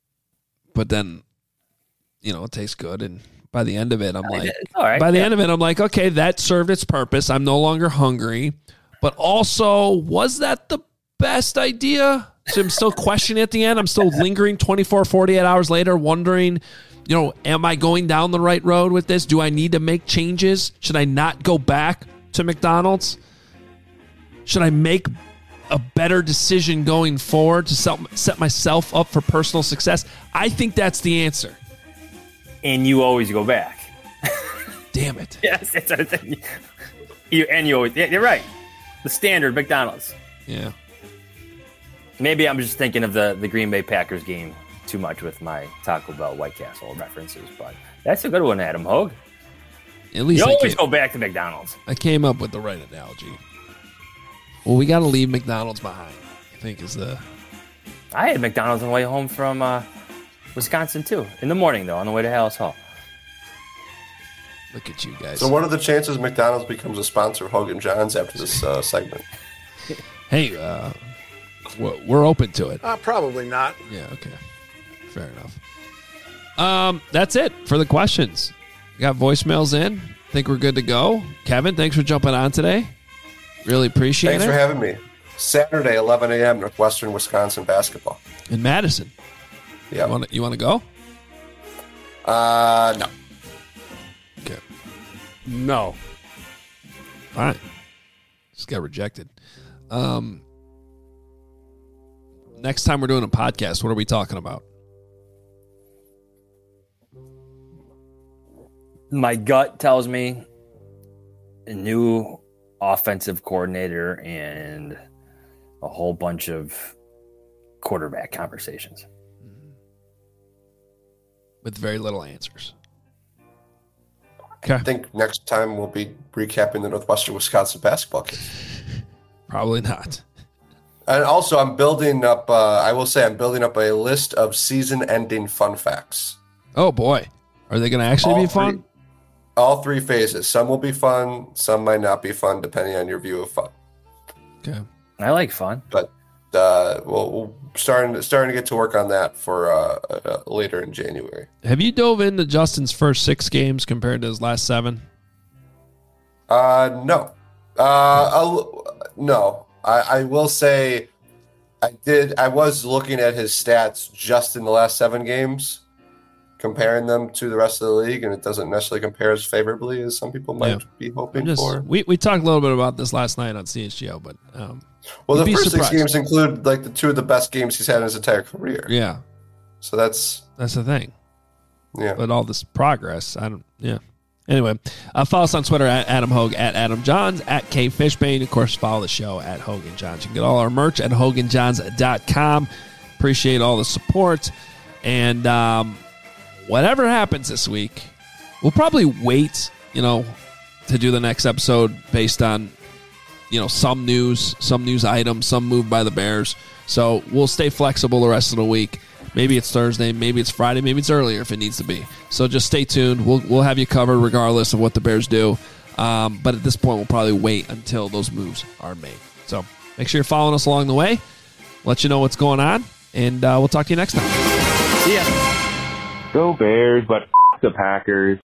but then, it tastes good. And by the end of it, I'm like, all right, end of it, I'm like, okay, that served its purpose. I'm no longer hungry. But also, was that the best idea? So I'm still questioning at the end. I'm still lingering 24, 48 hours later, wondering, am I going down the right road with this? Do I need to make changes? Should I not go back to McDonald's? Should I make a better decision going forward to set myself up for personal success? I think that's the answer. And you always go back. Damn it. Yes, that's what I'm saying. You're right. The standard McDonald's. Yeah. Maybe I'm just thinking of the Green Bay Packers game too much with my Taco Bell White Castle references, but that's a good one, Adam Hogue. At least you always go back to McDonald's. I came up with the right analogy. Well, we got to leave McDonald's behind, I think is the... I had McDonald's on the way home from Wisconsin, too. In the morning, though, on the way to Hallis Hall. Look at you guys. So what are the chances McDonald's becomes a sponsor of Hogan Johns after this segment? Hey, we're open to it. Probably not. Yeah, okay. Fair enough. That's it for the questions. We got voicemails in. Think we're good to go. Kevin, thanks for jumping on today. Really appreciate it. Thanks for having me. Saturday, 11 a.m., Northwestern Wisconsin basketball. In Madison. Yeah. You want to go? No. Okay. No. All right. Just got rejected. Next time we're doing a podcast, what are we talking about? My gut tells me a new offensive coordinator and a whole bunch of quarterback conversations. With very little answers. Okay. I think next time we'll be recapping the Northwestern Wisconsin basketball game. Probably not. And also, I'm building up, I'm building up a list of season-ending fun facts. Oh, boy. Are they going to actually be fun? All three phases. Some will be fun. Some might not be fun, depending on your view of fun. Okay. I like fun. But we're starting to get to work on that for later in January. Have you dove into Justin's first 6 games compared to his last 7? No. No. I will say I was looking at his stats just in the last 7 games, comparing them to the rest of the league, and it doesn't necessarily compare as favorably as some people might be hoping for. We talked a little bit about this last night on CHGO, but well, the first 6 games include like the 2 of the best games he's had in his entire career. Yeah. So that's the thing. Yeah. But all this progress, Anyway, follow us on Twitter at Adam Hogue, at Adam Johns, at K Fishbane. Of course, follow the show at Hogan Johns. You can get all our merch at HoganJohns.com. Appreciate all the support. And whatever happens this week, we'll probably wait, to do the next episode based on, some news items, some move by the Bears. So we'll stay flexible the rest of the week. Maybe it's Thursday, maybe it's Friday, maybe it's earlier if it needs to be. So just stay tuned. We'll have you covered regardless of what the Bears do. But at this point, we'll probably wait until those moves are made. So make sure you're following us along the way. Let you know what's going on, and we'll talk to you next time. See ya. Go Bears, but the Packers.